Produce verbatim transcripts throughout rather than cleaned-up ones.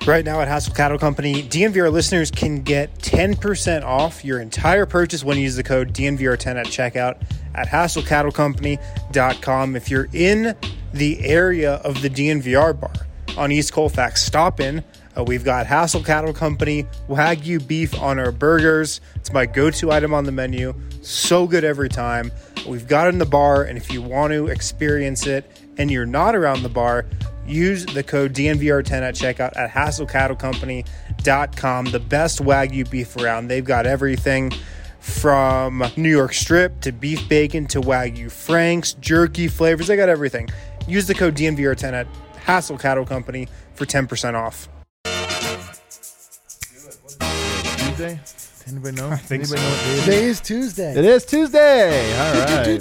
Right now at Hassel Cattle Company, D N V R listeners can get ten percent off your entire purchase when you use the code D N V R ten at checkout at hassel cattle company dot com. If you're in the area of the D N V R bar on East Colfax, stop in. Uh, we've got Hassel Cattle Company Wagyu beef on our burgers. It's my go-to item on the menu. So good every time. We've got it in the bar, and if you want to experience it and you're not around the bar, use the code D N V R ten at checkout at hassel cattle company dot com. The best Wagyu beef around. They've got everything from New York strip to beef bacon to Wagyu Franks, jerky flavors. They got everything. Use the code D N V R ten at Hassel Cattle Company for ten percent off. Tuesday? Anybody know? I think Anybody so. know what day it is? Today is Tuesday. It is Tuesday. All right.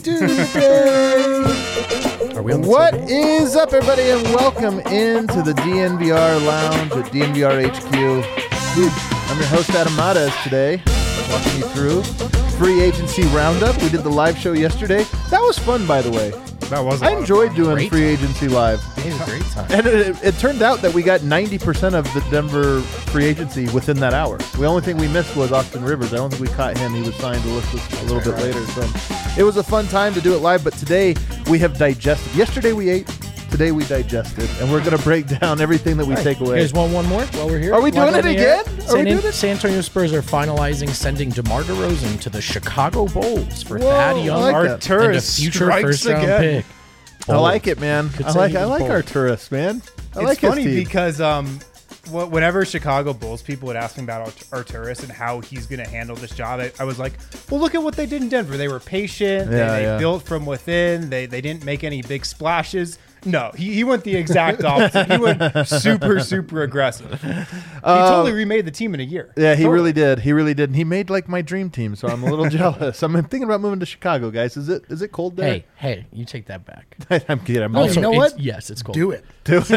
Tuesday. Are we on the What table? is up, everybody, and welcome into the D N V R Lounge at D N V R H Q. I'm your host, Adam Matas, today, walking you through Free Agency Roundup. We did the live show yesterday. That was fun, by the way. That was I enjoyed doing Great Free time. Agency Live. We had a great time. And it, it turned out that we got ninety percent of the Denver free agency within that hour. The only thing we missed was Austin Rivers. I don't think we caught him. He was signed to list us a little bit later. So it was a fun time to do it live, but today we have digested. Yesterday we ate. Today we digested. And we're going to break down everything that we All right, take away. Here's one, one more while we're here. Are we Live doing on it the air. again? Are we San, doing it? San Antonio Spurs are finalizing sending DeMar DeRozan to the Chicago Bulls for Whoa, Thad I Young like and that. a Arturus future strikes first-round again. pick. I like it, man. Could I say like he I was like bold. our tourists, man. I It's like his funny team. because um, wh- whenever Chicago Bulls people would ask me about Art- Arturus and how he's going to handle this job, I, I was like, well, look at what they did in Denver. They were patient. Yeah, they they yeah. built from within. They they didn't make any big splashes. No, he, he went the exact opposite. He went super, super aggressive. He totally remade the team in a year. Yeah, he Totally. really did. He really did. And he made like my dream team, so I'm a little jealous. I'm thinking about moving to Chicago, guys. Is it is it cold there? Hey, hey, you take that back. I'm kidding. I'm Oh, not- you know it's- what? Yes, it's cold. Do it.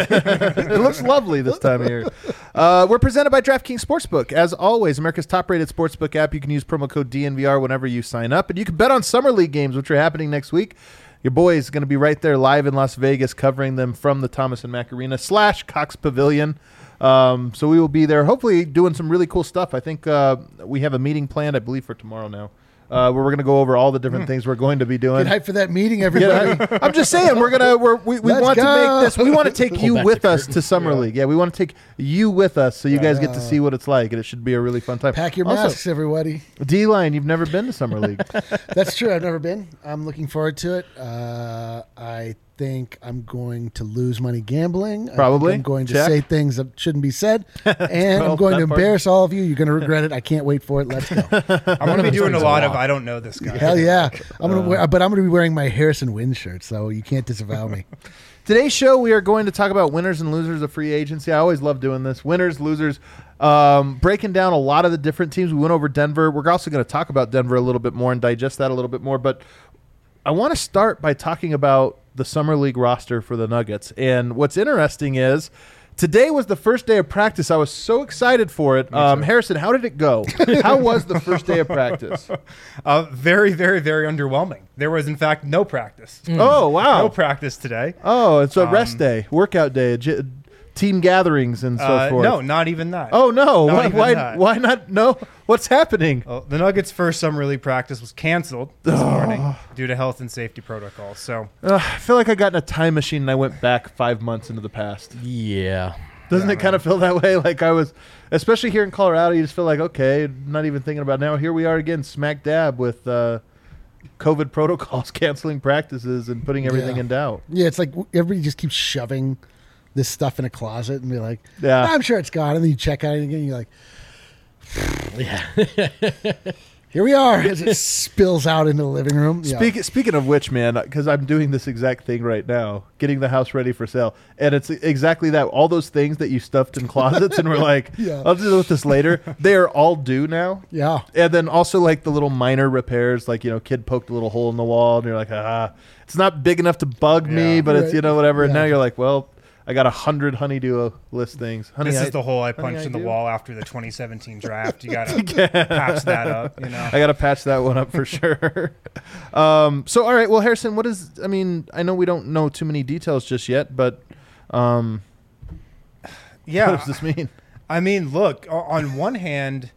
It looks lovely this time of year. Uh, we're presented by DraftKings Sportsbook. As always, America's top-rated sportsbook app. You can use promo code D N V R whenever you sign up. And you can bet on Summer League games, which are happening next week. Your boy is going to be right there live in Las Vegas covering them from the Thomas and Mack Arena slash Cox Pavilion. Um, so we will be there hopefully doing some really cool stuff. I think uh, we have a meeting planned, I believe, for tomorrow now. Uh, where we're going to go over all the different things we're going to be doing. Get hyped for that meeting, everybody. Yeah, I'm just saying we're gonna we're, we we Let's want to go. make this. We want to take Pull you back with the us curtain. to Summer League. Yeah, we want to take you with us so you guys get to see what it's like, and it should be a really fun time. Pack your Also, masks, everybody. D-line, you've never been to Summer League. That's true. I've never been. I'm looking forward to it. Uh, I think I'm going to lose money gambling. I think Probably. I'm going to Check. say things that shouldn't be said. And Well, I'm going that to part. embarrass all of you. You're going to regret it. I can't wait for it. Let's go. I'm going to be doing a It's a lot of lot. I don't know this guy. Hell yeah. I'm gonna wear, but I'm going to be wearing my Harrison Wind shirt, so you can't disavow me. Today's show, we are going to talk about winners and losers of free agency. I always love doing this. Winners, losers, um, breaking down a lot of the different teams. We went over Denver. We're also going to talk about Denver a little bit more and digest that a little bit more. But I want to start by talking about the Summer League roster for the Nuggets. And what's interesting is today was the first day of practice. I was so excited for it. Um, Harrison, how did it go? How was the first day of practice? Uh, very, very, very underwhelming. There was, in fact, no practice. Oh, wow. No practice today. Oh, it's a rest Um, day, workout day, j- team gatherings and so Uh, forth. no, not even that. Oh, no. Not Why, even why, that. why not? No. What's happening? Well, the Nuggets' first summer league practice was canceled this morning due to health and safety protocols. So Uh, I feel like I got in a time machine and I went back five months into the past. Yeah. Doesn't Yeah, it kind of feel that way? Like I was, especially here in Colorado, you just feel like, okay, not even thinking about it now. Here we are again, smack dab with uh, COVID protocols, canceling practices and putting everything Yeah. in doubt. Yeah, it's like everybody just keeps shoving this stuff in a closet and be like, Yeah. I'm sure it's gone. And then you check out it again and you're like, Yeah. here we are as it spills out into the living room. Yeah. Speak, Speaking of which, man, because I'm doing this exact thing right now, getting the house ready for sale. And it's exactly that. All those things that you stuffed in closets and were like, Yeah. I'll deal with this later. They are all due now. Yeah. And then also like the little minor repairs, like, you know, kid poked a little hole in the wall and you're like, ah, it's not big enough to bug me, Yeah. but it's, Right. you know, whatever. And Yeah. now you're like, well, I got a hundred honeydew list things. Honey, this I, is the hole I honey, punched I in the do. wall after the twenty seventeen draft. You got to patch that up, you know. I got to patch that one up for sure. um, so, all right. Well, Harrison, what is, I mean, I know we don't know too many details just yet, but um, Yeah. what does this mean? I mean, look, o- on one hand,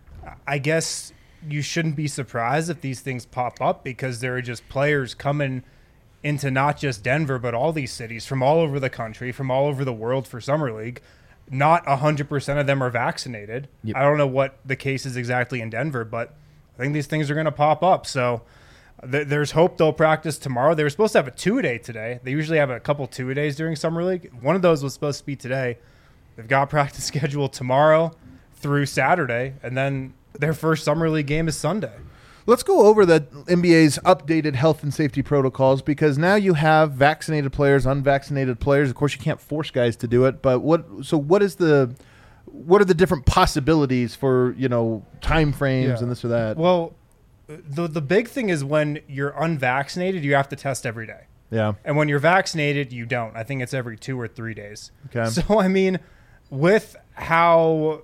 I guess you shouldn't be surprised if these things pop up because there are just players coming into not just Denver, but all these cities from all over the country, from all over the world for Summer League. Not one hundred percent of them are vaccinated. Yep. I don't know what the case is exactly in Denver, but I think these things are going to pop up. So th- there's hope they'll practice tomorrow. They were supposed to have a two-a-day today. They usually have a couple two-a-days during Summer League. One of those was supposed to be today. They've got practice scheduled tomorrow through Saturday, and then their first Summer League game is Sunday. Let's go over the N B A's updated health and safety protocols because now you have vaccinated players, unvaccinated players. Of course, you can't force guys to do it, but what? So what is the? What are the different possibilities for you know time frames Yeah. and this or that? Well, the the big thing is when you're unvaccinated, you have to test every day. Yeah. And when you're vaccinated, you don't. I think it's every two or three days. Okay. So, I mean, with how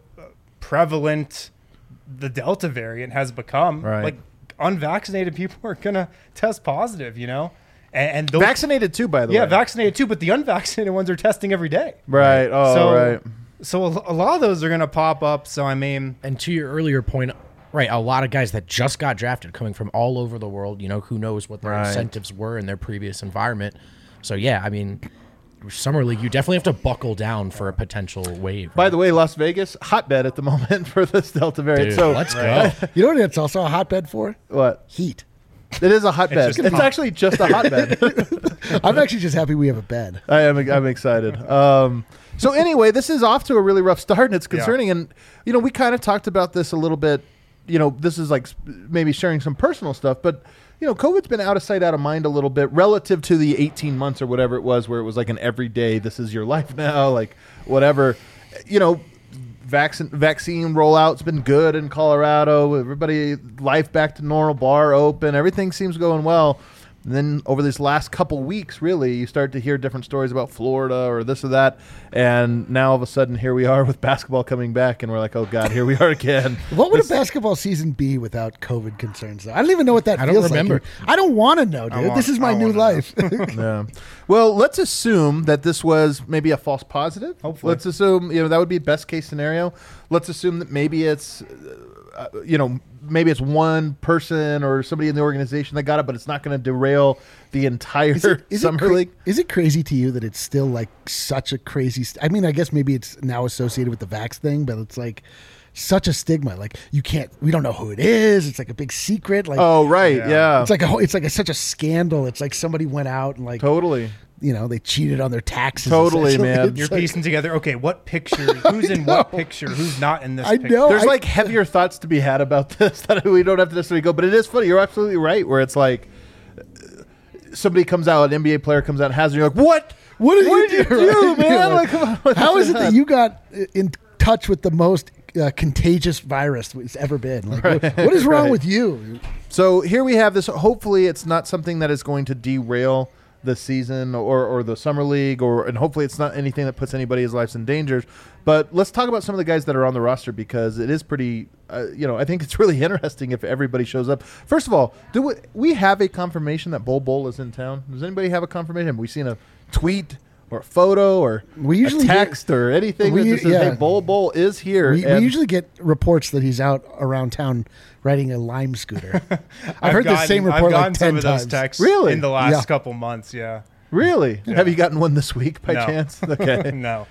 prevalent the Delta variant has become, Right. like unvaccinated people are going to test positive, you know? And, and those, Vaccinated too, by the yeah, way. vaccinated too, but the unvaccinated ones are testing every day. Right. Oh, so, right. So a, a lot of those are going to pop up. So, I mean, And to your earlier point, right, a lot of guys that just got drafted coming from all over the world, you know, who knows what their Right. incentives were in their previous environment. So, yeah, I mean, Summer League, you definitely have to buckle down for a potential wave. By the way, Las Vegas, hotbed at the moment for this Delta variant. Dude, so let's go. You know what it's also a hotbed for? what? Heat. It is a hotbed. It's It's, just- actually just a hotbed. I'm actually just happy we have a bed. I am. I'm excited. Um, so anyway, this is off to a really rough start, and it's concerning. Yeah. And you know, we kind of talked about this a little bit. You know, this is like sp- maybe sharing some personal stuff, but you know, COVID's been out of sight, out of mind a little bit relative to the eighteen months or whatever it was, where it was like an everyday. This is your life now, like whatever. You know, vaccine vaccine rollout's been good in Colorado. Everybody, life back to normal, bar open, everything seems going well. And then over these last couple weeks, really, you start to hear different stories about Florida or this or that. And now all of a sudden, here we are with basketball coming back, and we're like, oh, God, here we are again. What would This- a basketball season be without COVID concerns? Though? I don't even know what that I don't feels remember. like. I don't want to know, dude. want- this is my I new wanna know. life. Yeah. Well, let's assume that this was maybe a false positive. Hopefully. Let's assume, you know, that would be best case scenario. Let's assume that maybe it's, uh, you know, maybe it's one person or somebody in the organization that got it, but it's not going to derail the entire Is it, is, it Summer cra- League. is it crazy to you that it's still like such a crazy? St- I mean, I guess maybe it's now associated with the vax thing, but it's like such a stigma. Like you can't, we don't know who it is. It's like a big secret. Like Oh, right. Yeah. Yeah. it's like a whole, it's like a, such a scandal. It's like somebody went out and like Totally. you know they cheated on their taxes. Totally, essentially. man. It's you're like- piecing together, okay, what picture, who's in what picture, who's not in this I picture. know. There's I- like heavier thoughts to be had about this that we don't have to necessarily go, but it is funny. You're absolutely right. Where it's like uh, somebody comes out, an N B A player comes out and has it. You're like, what? What did, What you did you do, do, right? man? You're Like, come on, what how the is it that heck? you got in touch with the most uh, contagious virus it's ever been? Like, what, what is wrong Right. with you? So here we have this. Hopefully, it's not something that is going to derail the season or, or the summer league, or and hopefully it's not anything that puts anybody's lives in danger. But let's talk about some of the guys that are on the roster because it is pretty. Uh, you know, I think it's really interesting if everybody shows up. First of all, do we, we have a confirmation that Bol Bol is in town? Does anybody have a confirmation? Have we seen a tweet or a photo or We usually a text or anything we- that just says, yeah. "Hey, Bol Bol is here"? We, we And- usually get reports that he's out around town riding a Lime scooter. I've, heard the gotten- same I've report gotten like some ten of those times. texts Really? in the last Yeah. couple months. Yeah. Really? Have you gotten one this week by No. chance? Okay. No.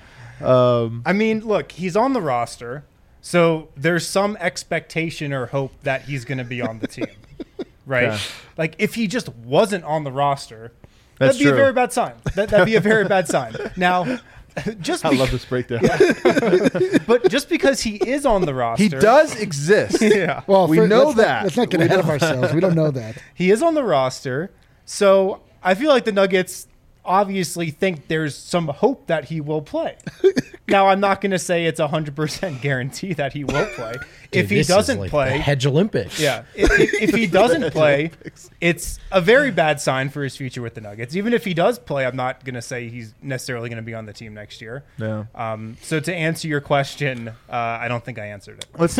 um, I mean, look, he's on the roster, so there's some expectation or hope that he's going to be on the team, right? Yeah. Like if he just wasn't on the roster, That's that'd be true. a very bad sign. That, that'd be a very bad sign. Now, just I be- love this breakdown. but just because he is on the roster, He does exist. Yeah, Well, We for- know let's not- that. let's not get We ahead of know ourselves. We don't know that. he is on the roster. So I feel like the Nuggets obviously think there's some hope that he will play. Now, I'm not going to say it's a hundred percent guarantee that he will play. Dude, if he this is doesn't like the play, Hedge Olympics. yeah, if, if, if he doesn't play, it's a very bad sign for his future with the Nuggets. Even if he does play, I'm not going to say he's necessarily going to be on the team next year. Yeah. Um, so to answer your question, uh, I don't think I answered it. Let's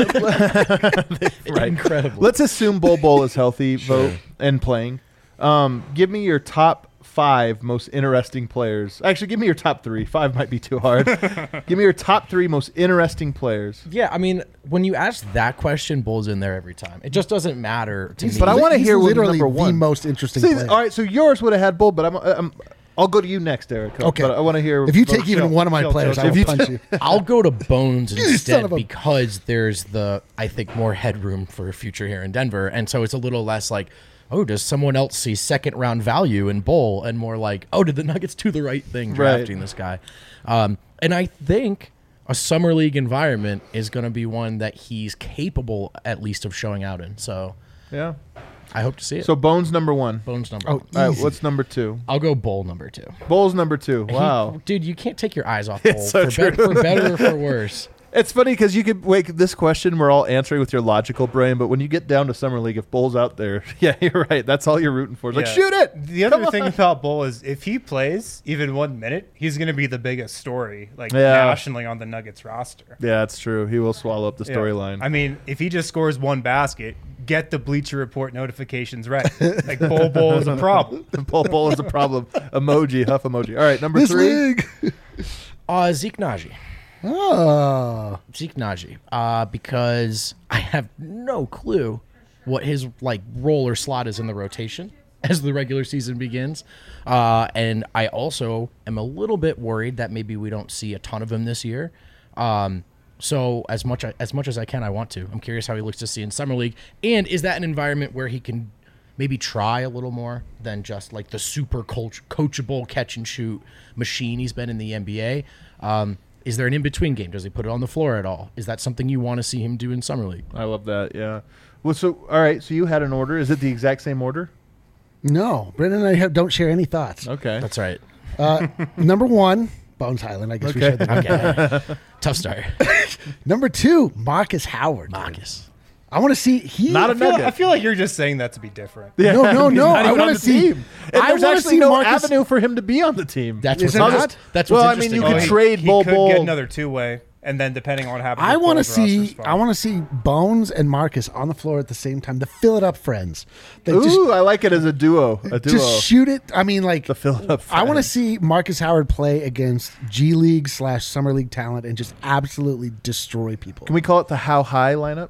right. Incredible. Let's assume Bol Bol is healthy, vote and playing. Um, give me your top five most interesting players. Actually, give me your top three. Five might be too hard. Give me your top three most interesting players. Yeah, I mean, when you ask that question, Bull's in there every time. It just doesn't matter to He's- me. But I want to he's hear what literally number one. the most interesting See, player. all right, so yours would have had Bull, but I'm, I'm I'll go to you next, Eric. Okay. But I want to hear. If you well, take even chill, one of my chill, players, chill, I will chill. punch you. I'll go to Bones son instead of a- because there's the, I think, more headroom for a future here in Denver. And so it's a little less like, oh, does someone else see second round value in Bull? And more like, oh, did the Nuggets do the right thing drafting Right. this guy? Um, and I think a summer league environment is going to be one that he's capable at least of showing out in. So Yeah. I hope to see it. So Bones number one. Bones number Oh, one. All right, easy. what's number two? I'll go Bull number two. Bull's number two. He- Wow. dude, you can't take your eyes off Bull It's so for, true. bet- for better or for worse. It's funny because you could wake this question we're all answering with your logical brain, but when you get down to summer league, if Bull's out there, yeah, you're right. That's all you're rooting for. It's like Yeah. shoot it. The other Come thing on. about Bull is if he plays even one minute, he's going to be the biggest story, like Yeah. nationally on the Nuggets roster. Yeah, it's true. He will swallow up the Yeah. storyline. I mean, if he just scores one basket, get the Bleacher Report notifications ready. Like Bull Bull is a problem. Bull Bull is a problem. Emoji, huff emoji. All right, number This three. league. Uh, Zeke Naji. Oh. Zeke Naji, uh, because I have no clue what his like role or slot is in the rotation as the regular season begins, uh, and I also am a little bit worried that maybe we don't see a ton of him this year. Um, so as much as much as I can, I want to. I'm curious how he looks to see in summer league, and is that an environment where he can maybe try a little more than just like the super coach, coachable catch and shoot machine he's been in the N B A? Um, Is there an in-between game? Does he put it on the floor at all? Is that something you want to see him do in Summer League? I love that. Yeah. Well, so all right. So you had an order. Is it the exact same order? No. Brendan and I have, don't share any thoughts. Okay. That's right. Uh, number one, Bones Highland. I guess we Okay. shared that. Okay. Tough start. Number two, Marcus Howard. dude. Marcus. I want to see he. Not I a feel, Nugget. I feel like you're just saying that to be different. Yeah. No, no, He's no. not I even wanna on the see- team. And I there's wanna actually see no Marcus- avenue for him to be on the team. That's Is what's there interest- not? That's Well, what's I mean, interesting. you could he, trade he Bol could Bol. get another two-way, and then depending on what happens, I with want to Bull's roster see. spot. I want to see Bones and Marcus on the floor at the same time. The fill it up friends. They Ooh, just I like it as a duo. A duo. just shoot it. I mean, like The fill it up I want to friends. see Marcus Howard play against G League slash Summer League talent and just absolutely destroy people. Can we call it the How High lineup?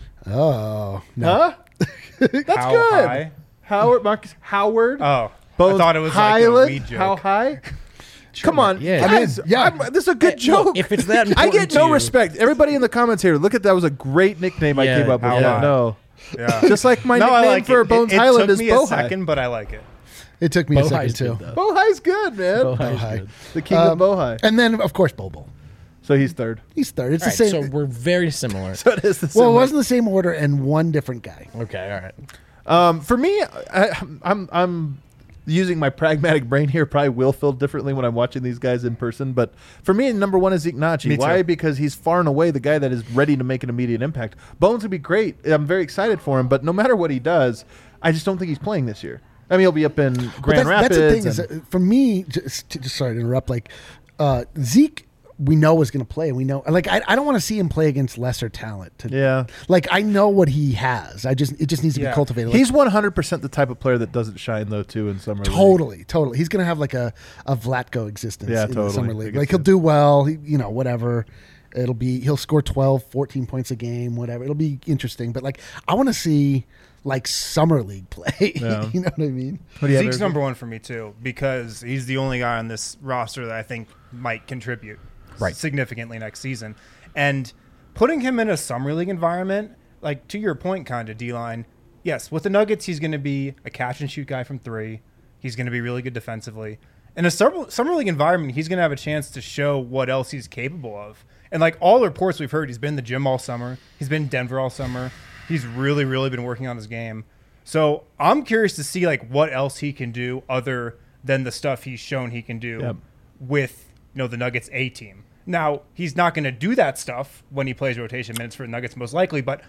Oh no! Huh? That's How good. high? Howard, Marcus Howard. Oh, Bones I thought it was like a Highland, weed joke. How high? Come on, Yeah. guys. I mean, yeah. I'm- this is a good Hey, look, joke. if it's that I important get to no you- respect. Everybody in the comments here, look at that was a great nickname I Yeah, came up with. How Yeah, High. no, Yeah. just like my no, I nickname like for it. Bones it, it Highland took is me a Bohai. second, but I like it. It took me a second Bohai's too. good, though. Bohai's good, man. Bohai's Bohai. good. The king Um, of Bohai. And then of course Bobo. So he's third. He's third. It's All the right, same. so we're very similar. So it is the well, it same. wasn't the same order and one different guy. Okay, all right. Um, for me, I, I'm I'm using my pragmatic brain here. Probably will feel differently when I'm watching these guys in person. But for me, number one is Zeke Naji. Me too. Why? Because he's far and away the guy that is ready to make an immediate impact. Bones would be great. I'm very excited for him. But no matter what he does, I just don't think he's playing this year. I mean, he'll be up in But Grand that's, Rapids. that's the thing is, and- that for me, just, just sorry to interrupt. Like uh, Zeke, we know is going to play, and we know. Like I, I don't want to see him play against lesser talent. To, yeah. Like I know what he has. I just it just needs to Yeah. be cultivated. Like, He's one hundred percent the type of player that doesn't shine, though, too, in summer league. totally, totally. He's going to have like a a Vlatko existence Yeah, in totally. the summer I league. can Like see he'll it. do well. He, you know, whatever. It'll be he'll score twelve, fourteen points a game, whatever. It'll be interesting. But like I want to see like summer league play. Yeah. You know what I mean? What do you have, Zeke's Eric? number one for me too because he's the only guy on this roster that I think might contribute Right. significantly next season. And putting him in a summer league environment, like to your point, kind of D-line. Yes, with the Nuggets, he's going to be a catch and shoot guy from three. He's going to be really good defensively. In a summer, summer league environment, he's going to have a chance to show what else he's capable of. And like all the reports we've heard, he's been in the gym all summer. He's been in Denver all summer. He's really, really been working on his game. So I'm curious to see like what else he can do other than the stuff he's shown he can do Yep. with you know the Nuggets A team. Now he's not going to do that stuff when he plays rotation minutes for the Nuggets most likely, but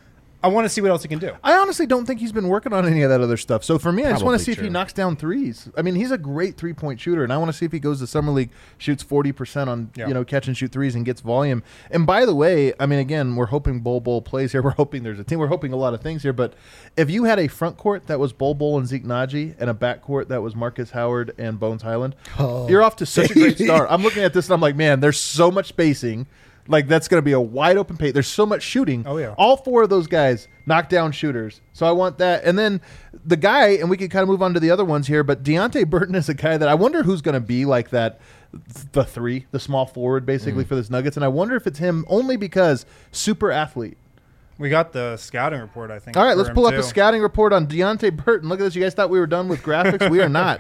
I want to see what else he can do. I honestly don't think he's been working on any of that other stuff. So for me, I just want Probably to see if he true. knocks down threes. I mean, he's a great three-point shooter, and I want to see if he goes to summer league, shoots forty percent on Yeah. you know catch and shoot threes, and gets volume. And by the way, I mean again, we're hoping Bol Bol plays here. We're hoping there's a team. We're hoping a lot of things here. But if you had a front court that was Bol Bol and Zeke Naji, and a back court that was Marcus Howard and Bones Highland, Oh. you're off to such a great start. I'm looking at this and I'm like, man, there's so much spacing. Like that's going to be a wide open paint. There's so much shooting. Oh, yeah. All four of those guys knockdown shooters. So I want that. And then the guy, and we can kind of move on to the other ones here, but Deontay Burton is a guy that I wonder who's going to be like that, the three, the small forward basically for this Nuggets. And I wonder if it's him only because super athlete. We got the scouting report, I think. All right, for let's him, pull up too. a scouting report on Deontay Burton. Look at this. You guys thought we were done with graphics? We are not.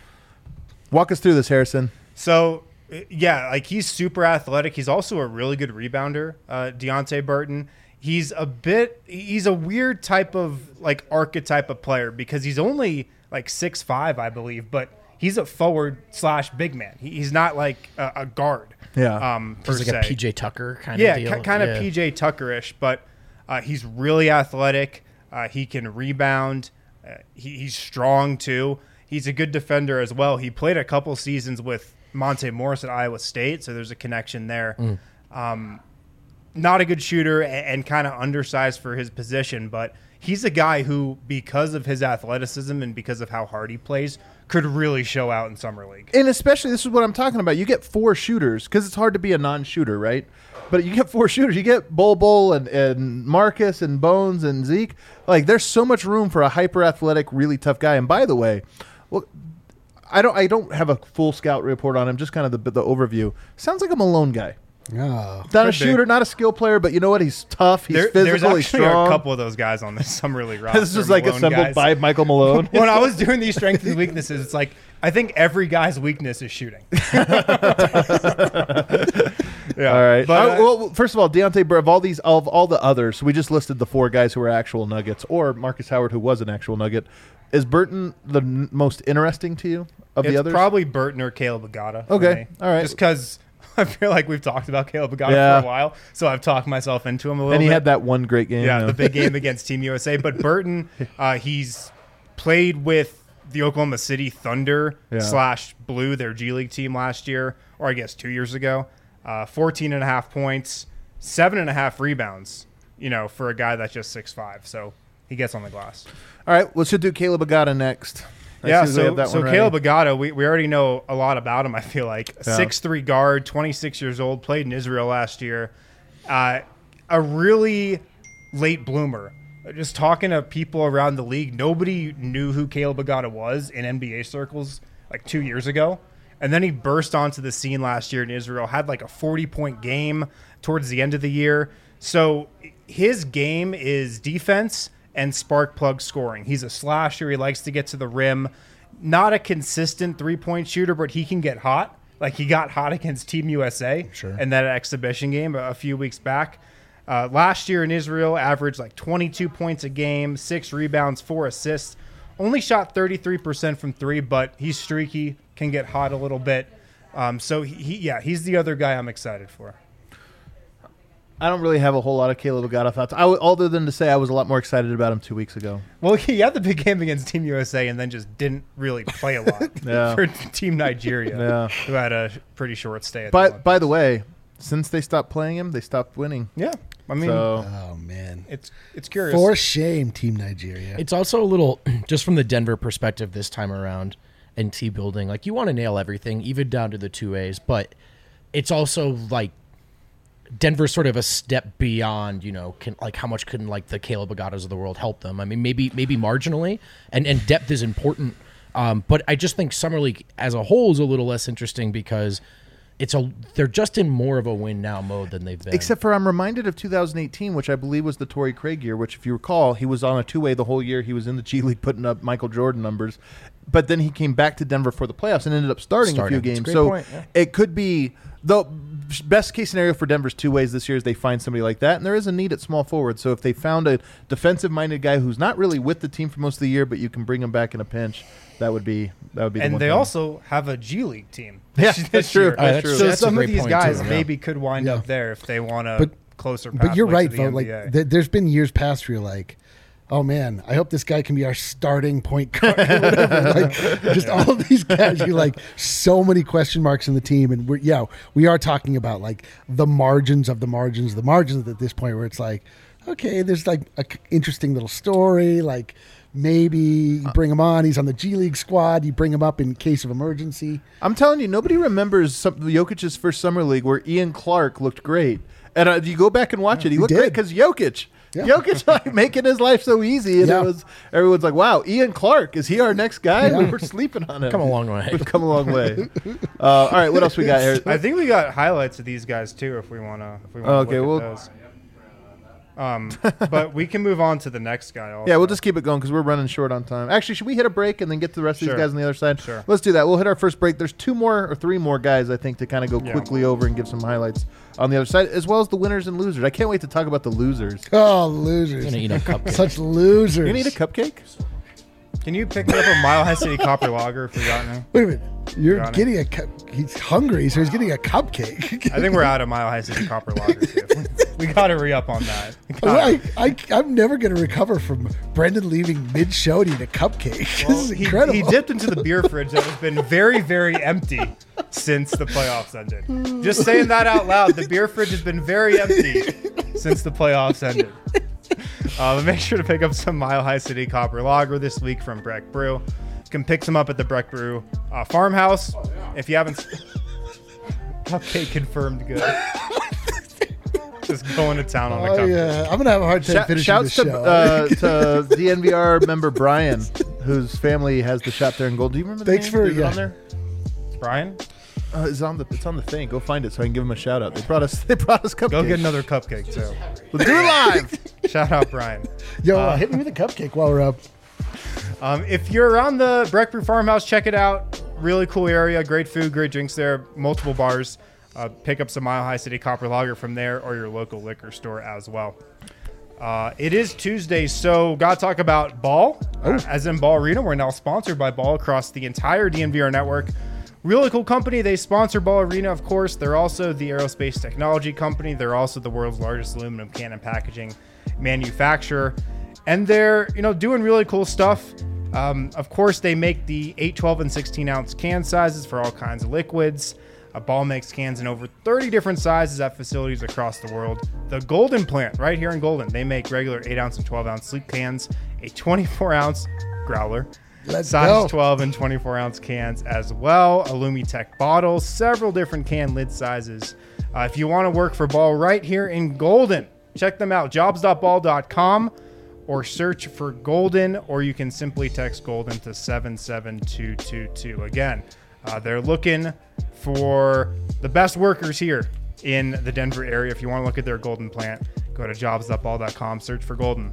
Walk us through this, Harrison. So, uh, yeah, like he's super athletic. He's also a really good rebounder, uh, Deontay Burton. He's a bit, he's a weird type of like archetype of player because he's only like six five, I believe, but he's a forward slash big man. He, he's not like a, a guard. Yeah. Um, per He's like se. a P J Tucker kind Yeah, of deal. ki- kind Yeah. of P J Tucker-ish, but uh, he's really athletic. Uh, he can rebound. Uh, he, he's strong too. He's a good defender as well. He played a couple seasons with Monte Morris at Iowa State, so there's a connection there. Mm. Um, not a good shooter and, and kind of undersized for his position, but he's a guy who, because of his athleticism and because of how hard he plays, could really show out in summer league. And especially, this is what I'm talking about. You get four shooters because it's hard to be a non-shooter, right? But you get four shooters. You get Bol Bol and, and Marcus and Bones and Zeke. Like, there's so much room for a hyper-athletic, really tough guy. And by the way, well, I don't I don't have a full scout report on him. Just kind of the the overview. Sounds like a Malone guy. Oh. Not Could a be. shooter, not a skill player, but you know what? He's tough. He's There, physical. there's He's actually strong. a couple of those guys on this summer league roster. This is like Malone assembled guys. by Michael Malone. When I was doing these strengths and weaknesses, it's like I think every guy's weakness is shooting. Yeah. All right. But, Uh, uh, well, first of all, Deontay Burton, of all these, of all the others, we just listed the four guys who are actual Nuggets, or Marcus Howard, who was an actual Nugget. Is Burton the n- most interesting to you of it's the others? probably Burton or Caleb Agata. for Okay. me. All right. Just because I feel like we've talked about Caleb Agata Yeah. for a while, so I've talked myself into him a little and he bit. had that one great game. Yeah, you know. the big game against Team U S A. But Burton, uh, he's played with the Oklahoma City Thunder Yeah. slash Blue, their G League team last year, or I guess two years ago. Uh, fourteen and a half points, seven and a half rebounds, you know, for a guy that's just six five. So he gets on the glass. All right, let's do Caleb Agata next. As Yeah, soon as we have so, that so one ready. Caleb Agata, we, we already know a lot about him, I feel like. Yeah. six three guard, twenty-six years old, played in Israel last year. Uh, a really late bloomer. Just talking to people around the league, nobody knew who Caleb Agata was in N B A circles like two years ago. And then he burst onto the scene last year in Israel, had like a forty-point game towards the end of the year. So his game is defense and spark plug scoring. He's a slasher. He likes to get to the rim. Not a consistent three-point shooter, but he can get hot. Like he got hot against Team U S A Sure. in that exhibition game a, a few weeks back. Uh, last year in Israel, averaged like twenty-two points a game, six rebounds, four assists. Only shot thirty-three percent from three, but he's streaky, can get hot a little bit. Um, so, he, he, yeah, he's the other guy I'm excited for. I don't really have a whole lot of Caleb Agata thoughts, I w- other than to say I was a lot more excited about him two weeks ago. Well, he had the big game against Team U S A and then just didn't really play a lot Yeah. for Team Nigeria, Yeah. who had a pretty short stay at the But Olympics. by the way, since they stopped playing him, they stopped winning. Yeah, I mean, So Oh, man. it's it's curious. For shame, Team Nigeria. It's also a little, just from the Denver perspective this time around and T building, like you want to nail everything, even down to the two A's, but it's also like Denver's sort of a step beyond, you know, can like how much couldn't like the Caleb Agatas of the world help them? I mean, maybe maybe marginally, and, and depth is important, um, but I just think Summer League as a whole is a little less interesting because it's a they're just in more of a win now mode than they've been. except for I'm reminded of two thousand eighteen, which I believe was the Torrey Craig year, which if you recall, he was on a two-way the whole year. He was in the G League putting up Michael Jordan numbers. But then he came back to Denver for the playoffs and ended up starting, Starting. a few That's a games. great So point, yeah. it could be the best case scenario for Denver's two ways this year is they find somebody like that, and there is a need at small forward. So if they found a defensive-minded guy who's not really with the team for most of the year, but you can bring him back in a pinch, that would be that would be. the and one they thing. also have a G League team. Yeah, this that's true. year. That's that's true. So That's a some of great these point, guys too, yeah. maybe could wind Yeah. up there if they want to But- closer. But you're pathway right, to the though. Like, N B A. th- there's been years past where you're like, oh man, I hope this guy can be our starting point guard or whatever. Like, just all of these guys, you like so many question marks in the team, and we're yeah, we are talking about like the margins of the margins, the margins at this point where it's like, okay, there's like a c- interesting little story, like. Maybe you bring him on. He's on the G League squad. You bring him up in case of emergency. I'm telling you, nobody remembers some, Jokic's first summer league where Ian Clark looked great. And uh, you go back and watch it. He He looked did. great because Jokic. Yeah. Jokic like making his life so easy, and Yeah. it was everyone's like, "Wow, Ian Clark, is he our next guy?" Yeah. We were sleeping on him. Come a long way. We've come a long way. Uh, all right, what else we got here? I think we got highlights of these guys too, if we wanna. If we wanna Okay, look well- at those. Um, but we can move on to the next guy. Also. Yeah, we'll just keep it going because we're running short on time. Actually, should we hit a break and then get to the rest of Sure. these guys on the other side? Sure. Let's do that. We'll hit our first break. There's two more or three more guys, I think, to kind of go Yeah. quickly over and give some highlights on the other side, as well as the winners and losers. I can't wait to talk about the losers. Oh, losers! gonna eat a cupcake. Such losers. You need a cupcake? Can you pick me up a Mile High City Copper Lager if we got any? Wait a minute. You're Got it. getting a cup. He's hungry, so he's getting a cupcake. I think we're out of Mile High City Copper Lager too. We gotta re up on that. We gotta- I, I, I'm never going to recover from Brendan leaving mid-show to eat a cupcake. Well, this is he, incredible. he dipped into the beer fridge that has been very, very empty since the playoffs ended. Just saying that out loud. The beer fridge has been very empty since the playoffs ended. Uh, but make sure to pick up some Mile High City Copper Lager this week from Breck Brew. You can pick some up at the Breck Brew uh, farmhouse. If you haven't, cupcake confirmed good. Just going to town on the Oh, cupcake. yeah. I'm going to have a hard time Shout, finishing shouts this to, show. uh, to D N V R member Brian, whose family has the shop there in Gold. Do you remember the Thanks name? for- Is it yeah. on there? Brian, Uh, it's on the it's on the thing. Go find it so I can give him a shout out. They brought us they brought us cupcakes. go get another cupcake too. We'll do it live. Shout out Brian. Yo, uh, hit me with a cupcake while we're up. Um, if you're around the Breck Brew Farmhouse, check it out. Really cool area. Great food, great drinks there. Multiple bars. Uh, pick up some Mile High City Copper Lager from there or your local liquor store as well. Uh, it is Tuesday, so got to talk about Ball. Uh, as in Ball Arena, we're now sponsored by Ball across the entire D N V R network. Really cool company. They sponsor Ball Arena, of course. They're also the aerospace technology company. They're also the world's largest aluminum can and packaging manufacturer. And they're, you know, doing really cool stuff. Um, of course, they make the eight, twelve, and sixteen ounce can sizes for all kinds of liquids. Uh, Ball makes cans in over thirty different sizes at facilities across the world. The Golden plant right here in Golden, they make regular eight ounce and twelve ounce sleek cans, a twenty-four ounce growler, Let's size go. twelve and twenty-four ounce cans as well, Alumitech bottles, several different can lid sizes. Uh, if you want to work for Ball right here in Golden, check them out, jobs dot ball dot com, or search for Golden, or you can simply text Golden to seven seven two two two. Again, uh, they're looking for the best workers here in the Denver area. If you want to look at their Golden plant, go to jobs dot ball dot com, search for Golden.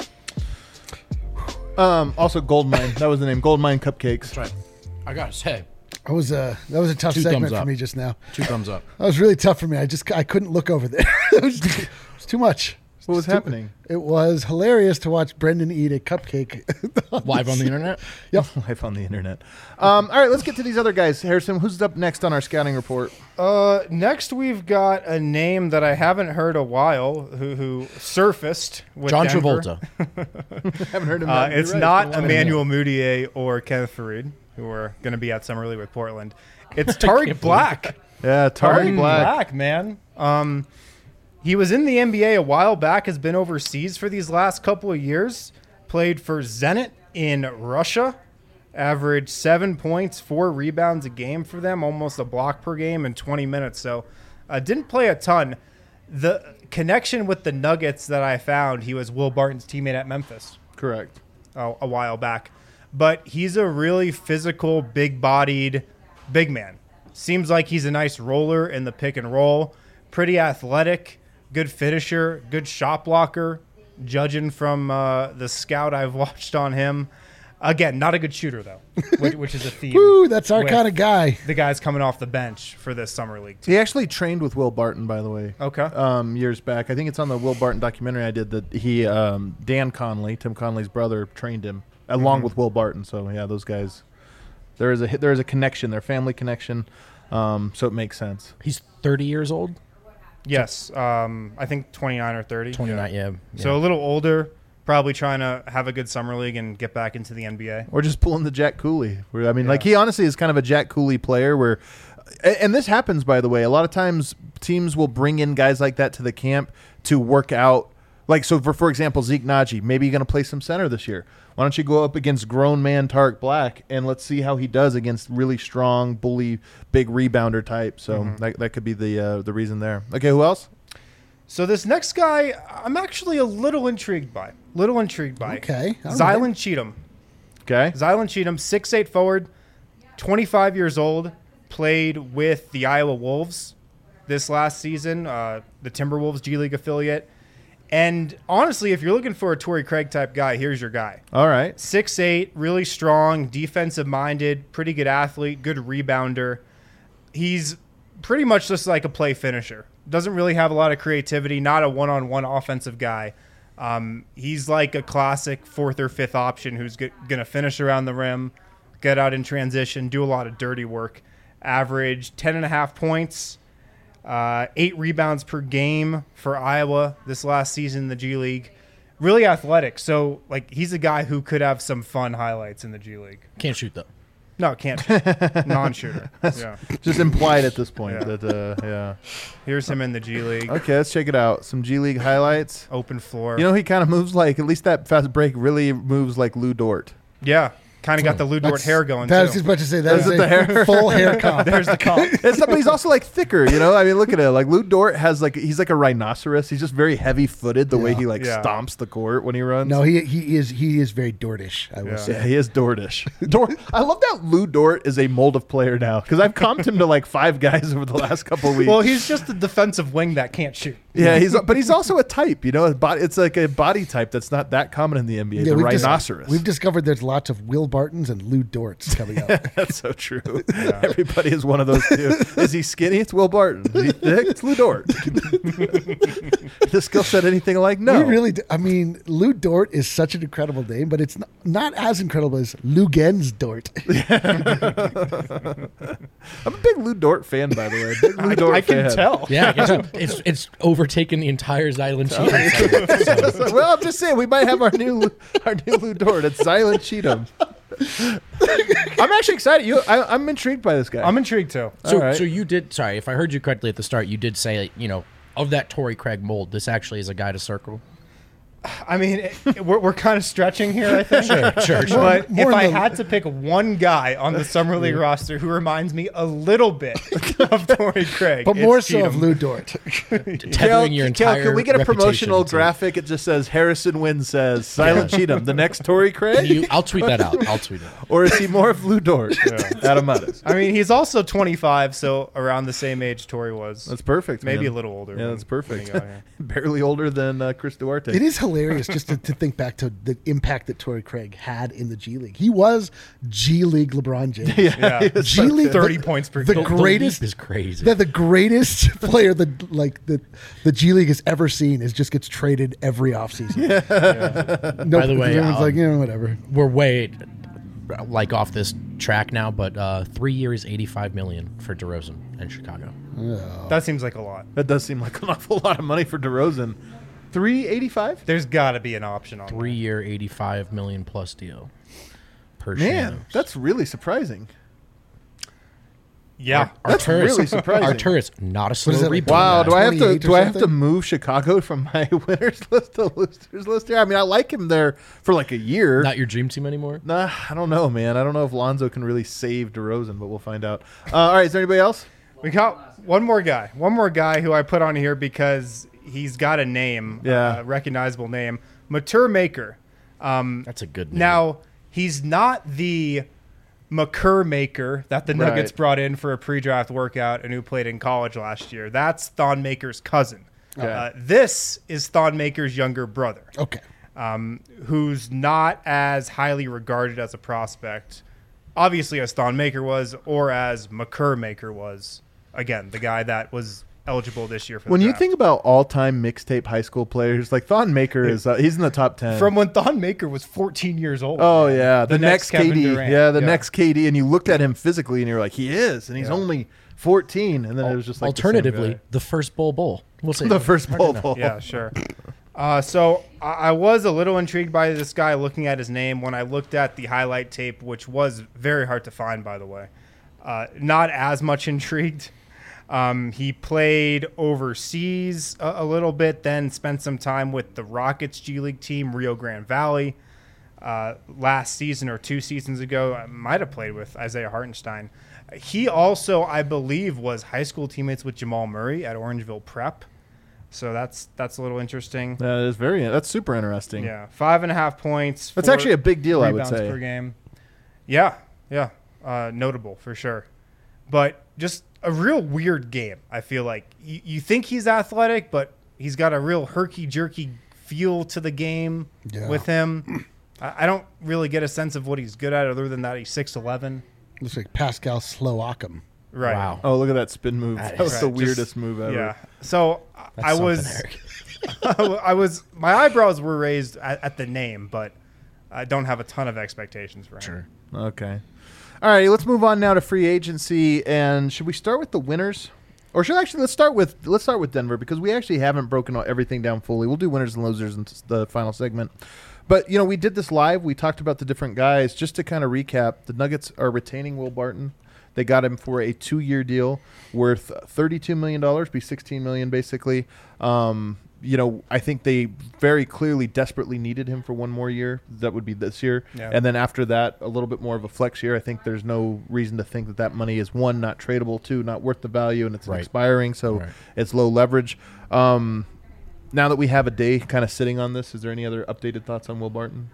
Um, also, Goldmine. That was the name. Goldmine Cupcakes. That's right. I gotta say, That was a that was a tough Two segment thumbs for up. me just now. two thumbs up. That was really tough for me. I just I couldn't look over there. it, was, it was too much. What was Too- happening? It was hilarious to watch Brendan eat a cupcake Live on the internet. Yep. Life on the internet. Um, all right, let's get to these other guys. Harrison, who's up next on our scouting report? Uh, next we've got a name that I haven't heard a while who who surfaced with John Denver. Travolta. haven't heard him. Uh, You're it's right, not been a while. Emmanuel Mudiay or Kenneth Farid, who are going to be at Summer League with Portland. It's Tariq Black. Yeah, Tariq Tariq Black. Black, man. Um, he was in the N B A a while back, has been overseas for these last couple of years, played for Zenit in Russia, averaged seven points, four rebounds a game for them, almost a block per game in twenty minutes. So uh, didn't play a ton. The connection with the Nuggets that I found, he was Will Barton's teammate at Memphis Correct. uh, a while back. But he's a really physical, big-bodied big man. Seems like he's a nice roller in the pick and roll. Pretty athletic, good finisher, good shot blocker, judging from uh, the scout I've watched on him. Again, not a good shooter, though, which, which is a theme. Woo, that's our with kind of guy. The guys coming off the bench for this summer league team. He actually trained with Will Barton, by the way. Okay. Um, years back, I think it's on the Will Barton documentary I did that he, um, Dan Conley, Tim Conley's brother, trained him along Mhm. with Will Barton. So yeah, those guys, there is a there is a connection, their family connection. Um, so it makes sense. He's thirty years old. Yes, um, I think twenty-nine or thirty. twenty-nine, yeah. yeah. So a little older, probably trying to have a good summer league and get back into the N B A. Or just pulling the Jack Cooley. Where, I mean, Yeah. like he honestly is kind of a Jack Cooley player where, and and this happens, by the way, a lot of times teams will bring in guys like that to the camp to work out. Like, so for, for example, Zeke Naji, maybe you're going to play some center this year. Why don't you go up against grown man Tarek Black and let's see how he does against really strong, bully, big rebounder type. So Mm-hmm. that, that could be the uh, the reason there. Okay, who else? So this next guy, I'm actually a little intrigued by. Little intrigued by. Okay, all Zylan right. Cheatham. Okay. Zylan Cheatham, six eight forward, twenty-five years old, played with the Iowa Wolves this last season, uh, the Timberwolves G League affiliate. And honestly, if you're looking for a Torrey Craig type guy, here's your guy. All right. six eight, really strong, defensive-minded, pretty good athlete, good rebounder. He's pretty much just like a play finisher. Doesn't really have a lot of creativity, not a one-on-one offensive guy. Um, he's like a classic fourth or fifth option who's g- going to finish around the rim, get out in transition, do a lot of dirty work. Average ten and a half points, uh, eight rebounds per game for Iowa this last season in the G League. Really athletic. So, like, he's a guy who could have some fun highlights in the G League. Can't shoot, though. No, can't. Non-shooter. Yeah. Just implied at this point Yeah. that, uh, yeah. Here's him in the G League. Okay, let's check it out. Some G League highlights. Open floor. You know, he kind of moves like, at least that fast break really moves like Lou Dort. yeah. Kind of got the Lou Dort That's- hair going, That was too. just about to say that Is is it a the hair? full hair comp. There's the comp. It's not, but he's also like thicker, you know. I mean, look at it. Like Lou Dort has like he's like a rhinoceros. He's just very heavy-footed. The way Yeah. he like Yeah. stomps the court when he runs. No, he he is he is very Dortish. I will Yeah. say. yeah, he is Dortish. Dort. I love that Lou Dort is a mold of player now because I've comped him to like five guys over the last couple of weeks. Well, he's just a defensive wing that can't shoot. yeah, he's but he's also a type. You know, a body, it's like a body type that's not that common in the N B A. the we've dis- rhinoceros. we've discovered there's lots of Will Bartons and Lou Dorts coming up. That's so true. Everybody is one of those two. Is he skinny? It's Will Barton. Is he thick? It's Lou Dort. The skill set anything like? No. We really, do, I mean, Lou Dort is such an incredible name, but it's not, not as incredible as Lou Gens Dort. I'm a big Lou Dort fan, by the way. Big Lou Dort I can fan. tell. Yeah, I guess it's it's overtaken the entire Zylan Cheatham. So, Well, I'm just saying we might have our new Lou- our new Lou Dort. It's Zylan Cheatham. I'm actually excited. You, I, I'm intrigued by this guy. I'm intrigued, too. so, All right. so you did. Sorry, if I heard you correctly at the start, you did say, you know, of that Torrey Craig mold, this actually is a guy to circle. I mean, it, it- we're, we're kind of stretching here, I think. Sure, sure, sure. But More if I in the- had to pick one guy on the Summer League roster who reminds me a little bit of Torrey Craig, But it's more so Cheatham. of Lou Dort. Tethering your Kel, entire can we get a reputation promotional to- graphic? It just says Harrison Wynn says Silent Cheatham, the next Torrey Craig, You, I'll tweet that out. I'll tweet it. or is he more of Lou Dort? Adam Mattes. I mean, he's also twenty-five, so around the same age Torrey was. That's perfect. Maybe man. a little older. Yeah, when- that's perfect. when he got here. Barely older than uh, Chris Duarte. It is hilarious just to, to think back to the impact that Torrey Craig had in the G League. He was G League LeBron James. Yeah. G League, thirty the- post per the game. The greatest leap is crazy. They're the greatest player that like the the G League has ever seen is just gets traded every offseason. Yeah. No, By the way, everyone's um, like, you know, whatever. We're way like off this track now, but uh, three years, eighty-five million for DeRozan in Chicago. That seems like a lot. That does seem like an awful lot of money for DeRozan. three eighty-five? There's got to be an option on Three year, eighty-five million plus deal per Man, Shams. that's really surprising. that. Yeah. That's Arturis, really surprising. Arturis, not a slow is it, like, rebound. Wow, do I have to twenty-eight or do I have to something? move Chicago from my winners list to losers list here? I mean, I like him there for like a year. Not your dream team anymore? Nah, I don't know, man. I don't know if Lonzo can really save DeRozan, but we'll find out. Uh, all right, is there anybody else? We got one more guy. One more guy who I put on here because he's got a name, Yeah. a recognizable name. Matur Maker. Um, That's a good name. now, he's not the McCurr Maker that the Nuggets Right. brought in for a pre-draft workout and who played in college last year. That's Thon Maker's cousin. Okay. Uh, this is Thon Maker's younger brother, Okay. um, who's not as highly regarded as a prospect, obviously as Thon Maker was, or as McCurr Maker was. Again, the guy that was eligible this year for the When you draft. think about all-time mixtape high school players, like Thon Maker is uh, he's in the top ten. From when Thon Maker was fourteen years old. Oh man. yeah, the, next, Kevin K D, Durant. yeah, the next K D, and you looked at him physically, and you're like, he is, and he's Yeah. only fourteen, and then it was just like Alternatively, the, same the first Bull Bowl. We'll see. guy. the first bowl bowl. Yeah, sure. Uh, so I, I was a little intrigued by this guy looking at his name when I looked at the highlight tape, which was very hard to find, by the way. Uh, not as much intrigued. Um, he played overseas a, a little bit, then spent some time with the Rockets G League team, Rio Grande Valley. Uh, last season or two seasons ago, I might have played with Isaiah Hartenstein. He also, I believe, was high school teammates with Jamal Murray at Orangeville Prep. So that's that's a little interesting. That is very. That's super interesting. Yeah, five and a half points. That's actually a big deal, I would rebounds say. per game. Yeah, yeah, uh, notable for sure. But just a real weird game. I feel like you, you think he's athletic, but he's got a real herky jerky feel to the game Yeah. with him. I, I don't really get a sense of what he's good at, other than that he's six eleven. Looks like Pascal Slowakam. Right. Wow. Oh, look at that spin move. That That, was is- the Right, weirdest just- move ever. Yeah. So That's I something, was, Eric. I was, my eyebrows were raised at, at the name, but I don't have a ton of expectations for him. Sure. Okay. All right, let's move on now to free agency. And should we start with the winners? Or should actually let's start with let's start with Denver, because we actually haven't broken everything down fully. We'll do winners and losers in the final segment. But, you know, we did this live. We talked about the different guys. Just to kind of recap, the Nuggets are retaining Will Barton. They got him for a two-year deal worth thirty-two million dollars, be sixteen million dollars basically. Um, you know, I think they very clearly desperately needed him for one more year. That would be this year. Yeah. And then after that, a little bit more of a flex year. I think there's no reason to think that that money is, one, not tradable, two, not worth the value, and it's Right. expiring, so Right. it's low leverage. Um, now that we have a day kind of sitting on this, is there any other updated thoughts on Will Barton?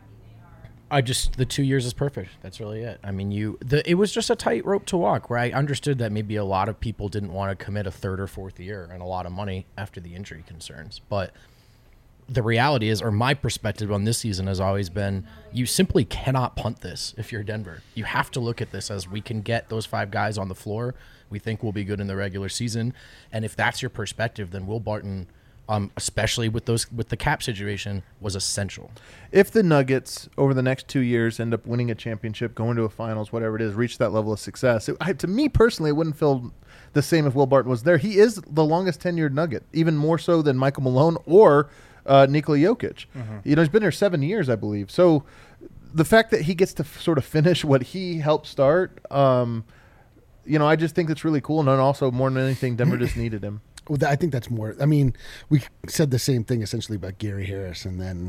I just the two years is perfect. That's really it. I mean, you the it was just a tight rope to walk. Where I understood that maybe a lot of people didn't want to commit a third or fourth year and a lot of money after the injury concerns. But the reality is, or my perspective on this season has always been, you simply cannot punt this if you're Denver. You have to look at this as we can get those five guys on the floor. We think we'll be good in the regular season, and if that's your perspective, then Will Barton, um, especially with those with the cap situation, was essential. If the Nuggets over the next two years end up winning a championship, going to a finals, whatever it is, reach that level of success, it, I, to me personally, it wouldn't feel the same if Will Barton was there. He is the longest tenured Nugget, even more so than Michael Malone or uh, Nikola Jokic. Mm-hmm. You know, he's been there seven years, I believe. So the fact that he gets to f- sort of finish what he helped start, um, you know, I just think that's really cool. And then also, more than anything, Denver just needed him. Well, th- I think that's more. I mean, we said the same thing essentially about Gary Harris, and then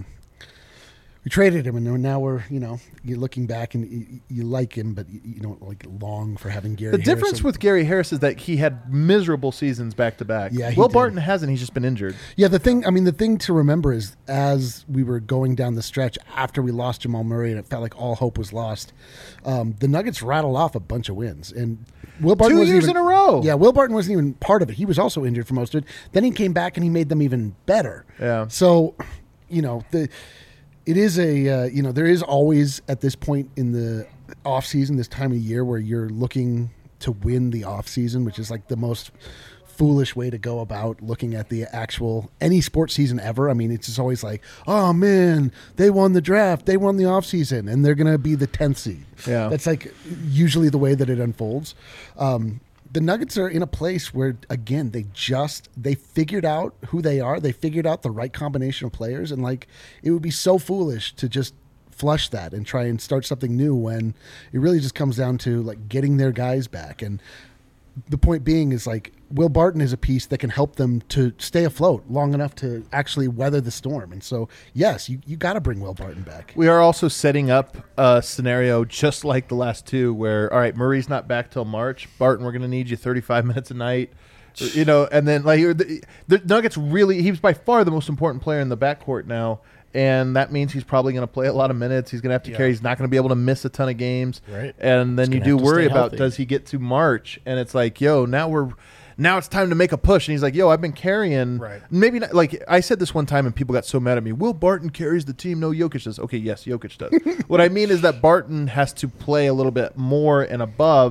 we traded him, and now we're, you know, you're looking back and you, you like him, but you, you don't like long for having Gary. The Harris. difference with Gary Harris is that he had miserable seasons back to back. Yeah, he Will did. Barton hasn't. He's just been injured. Yeah, the thing, I mean, the thing to remember is as we were going down the stretch after we lost Jamal Murray and it felt like all hope was lost, um, the Nuggets rattled off a bunch of wins. And Will Barton Two wasn't years even, in a row. Yeah, Will Barton wasn't even part of it. He was also injured for most of it. Then he came back and he made them even better. Yeah. So, you know, the it is a, uh, you know, there is always at this point in the off season, this time of year where you're looking to win the off season, which is like the most foolish way to go about looking at the actual any sports season ever. I mean, it's just always like, oh man, they won the draft, they won the offseason, and they're gonna be the tenth seed. Yeah. That's like usually the way that it unfolds. Um, the Nuggets are in a place where, again, they just they figured out who they are. They figured out the right combination of players, and like it would be so foolish to just flush that and try and start something new when it really just comes down to like getting their guys back. And the point being is like Will Barton is a piece that can help them to stay afloat long enough to actually weather the storm. And so, yes, you, you got to bring Will Barton back. We are also setting up a scenario just like the last two where, all right, Murray's not back till March. Barton, we're going to need you thirty-five minutes a night. You know, and then like the, the Nuggets really, he's by far the most important player in the backcourt now. And that means he's probably going to play a lot of minutes. He's going to have to Yeah. carry. He's not going to be able to miss a ton of games. Right. And then He's you gonna do have to worry stay about, healthy. does he get to March? And it's like, yo, now we're, now it's time to make a push. And he's like, yo, I've been carrying. Right. Maybe not. Like I said this one time and people got so mad at me. Will Barton carries the team. No, Jokic does. Okay, yes, Jokic does. What I mean is that Barton has to play a little bit more and above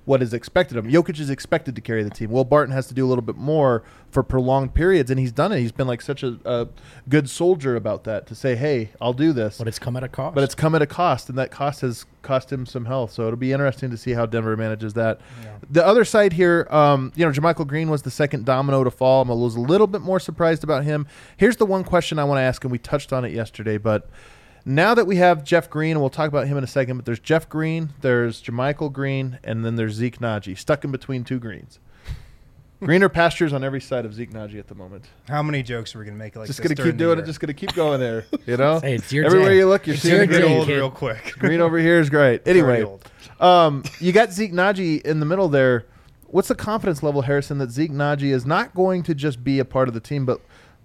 what is expected of him. Jokic is expected to carry the team. Will Barton has to do a little bit more for prolonged periods, and he's done it. He's been like such a, a good soldier about that to say, hey, I'll do this. But it's come at a cost. But it's come at a cost, and that cost has cost him some health. So it'll be interesting to see how Denver manages that. Yeah. The other side here, um, you know, JaMychal Green was the second domino to fall. I was a little bit more surprised about him. Here's the one question I want to ask, and we touched on it yesterday, but now that we have Jeff Green, and we'll talk about him in a second, but there's Jeff Green, there's JaMychal Green, and then there's Zeke Naji, stuck in between two Greens. Greener pastures on every side of Zeke Naji at the moment. How many jokes are we gonna make like just this? gonna during keep the doing year? it. Just gonna keep going there. You know, Hey, it's your everywhere day. you look, you're It's seeing your a Get green. day. old kid. real quick. Green over here is great. Very Anyway, old. um, you got Zeke Naji in the middle there. What's the confidence level, Harrison, that Zeke Naji is not going to just be a part of the team, but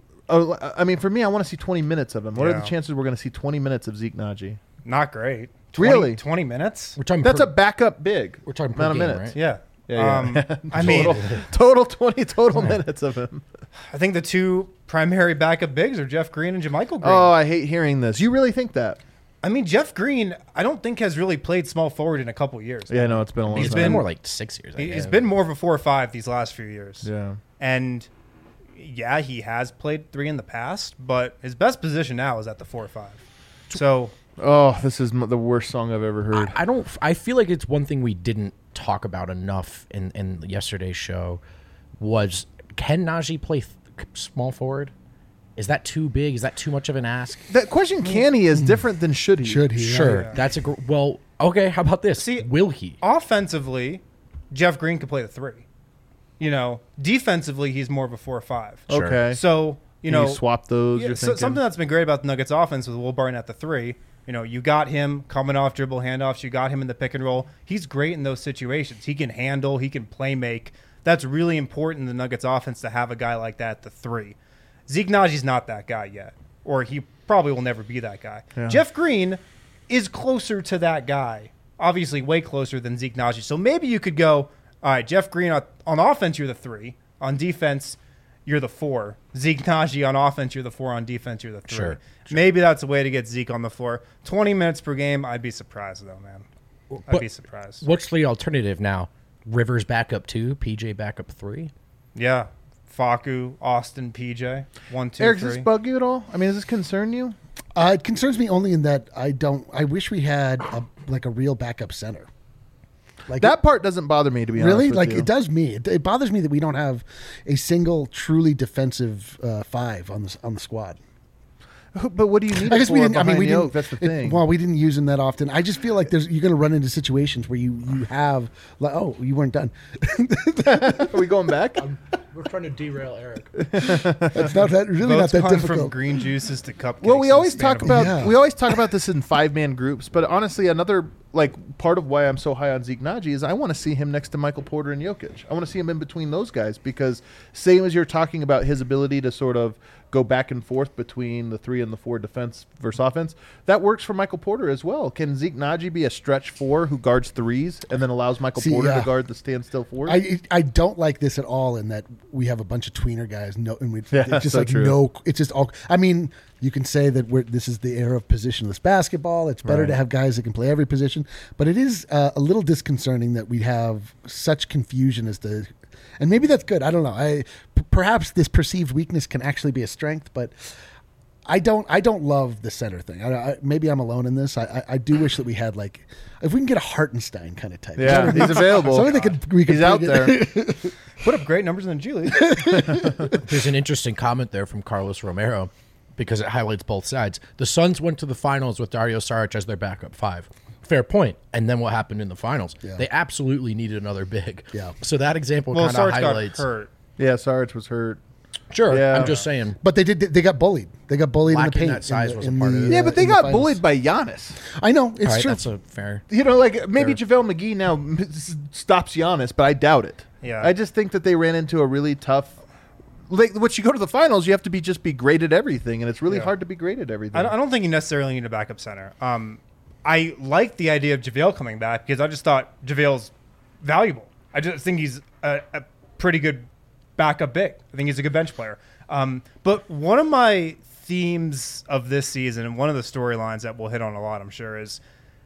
uh, I mean, for me, I want to see twenty minutes of him. What are Yeah. the chances we're going to see twenty minutes of Zeke Naji? Not great. twenty, Really? twenty minutes? We're talking. That's per, a backup big. We're talking per amount of game, minutes. right? Yeah. Yeah, yeah. Um, I mean, total, total twenty total minutes of him. I think the two primary backup bigs are Jeff Green and JaMychal Green. Oh, I hate hearing this. You really think that? I mean, Jeff Green, I don't think has really played small forward in a couple years. Yeah, no, it's been a long He's It's time. been been- more like six years. I He- He's guess. been more of a four or five these last few years. Yeah. And yeah, he has played three in the past, but his best position now is at the four or five. So Oh, this is m- the worst song I've ever heard. I, I don't. I feel like it's one thing we didn't talk about enough in in yesterday's show was can Najee play th- small forward? Is that too big? Is that too much of an ask? That question, can he, is different than should he? Should he? Sure, Yeah. that's a gr- well. Okay, how about this? See- Will he? offensively, Jeff Green could play the three. You know, defensively, he's more of a four or five. Sure. Okay. So, you Can know, you swap those? Yeah, you're so, thinking? something that's been great about the Nuggets offense with Will Barton at the three. You know, you got him coming off dribble handoffs. You got him in the pick and roll. He's great in those situations. He can handle. He can play make. That's really important in the Nuggets offense to have a guy like that at the three. Zeke Naji's not that guy yet, or he probably will never be that guy. Yeah. Jeff Green is closer to that guy, obviously way closer than Zeke Naji. So maybe you could go, all right, Jeff Green on, on offense, you're the three. On defense, you're the four. Zeke Naji on offense, you're the four. On defense, you're the three. Sure, sure. Maybe that's a way to get Zeke on the floor. twenty minutes per game, I'd be surprised, though, man. I'd But be surprised. What's the alternative now? Rivers back up two, P J back up three. Yeah. Facu, Austin, P J. One, two, Eric, three. does this bug you at all? I mean, does this concern you? Uh, it concerns me only in that I don't. I wish we had a, like a real backup center. Like That part doesn't bother me, to be really, honest with like you. it does me. It, it bothers me that we don't have a single truly defensive uh, five on the on the squad. But what do you need I it guess we for didn't. I mean, behind we Yoke? didn't. That's the it- thing. well, we didn't use him that often. I just feel like there's you're going to run into situations where you you have like, oh, you weren't done. Are we going back? We're trying to derail Eric. It's not that really Votes not that gone from difficult. green juices to cupcakes. Well, we in the always span talk of a about Yeah. we always talk about this in five man groups, but honestly, another like part of why I'm so high on Zeke Naji is I want to see him next to Michael Porter and Jokic. I want to see him in between those guys because same as you're talking about his ability to sort of go back and forth between the three and the four defense versus offense, that works for Michael Porter as well. Can Zeke Naji be a stretch four who guards threes and then allows Michael See, Porter yeah. to guard the standstill fours? I I don't like this at all. In that we have a bunch of tweener guys. No, and we Yeah, it's just so like true. no. It's just all. I mean, you can say that we're this is the era of positionless basketball. It's better Right. to have guys that can play every position. But it is uh, a little disconcerting that we have such confusion as to. And maybe that's good. I don't know. I p- perhaps this perceived weakness can actually be a strength, but I don't. I don't love the center thing. I, I, maybe I'm alone in this. I, I, I do wish that we had like, if we can get a Hartenstein kind of type. yeah, he's available. Something that could we could He's out bring there. it- Put up great numbers in the G League. There's an interesting comment there from Carlos Romero because it highlights both sides. The Suns went to the finals with Dario Saric as their backup five. Fair point. And then what happened in the finals? Yeah. They absolutely needed another big. Yeah. So that example well, kind of Sarge got highlights. hurt. Yeah, Sarge was hurt. Sure. Yeah. I'm just saying. But they did. They got bullied. They got bullied Lacking in the that paint. size in the, was a in part of the, it. Yeah, uh, but they in the got finals. bullied by Giannis. I know it's All right, true. that's a fair. You know, like maybe Fair. JaVale McGee now m- s- stops Giannis, but I doubt it. Yeah. I just think that they ran into a really tough. Like, once you go to the finals, you have to be just be great at everything, and it's really Yeah. hard to be great at everything. I don't, I don't think you necessarily need a backup center. Um, I like the idea of JaVale coming back because I just thought JaVale's valuable. I just think he's a, a pretty good backup big. I think he's a good bench player. Um, but one of my themes of this season and one of the storylines that we'll hit on a lot, I'm sure, is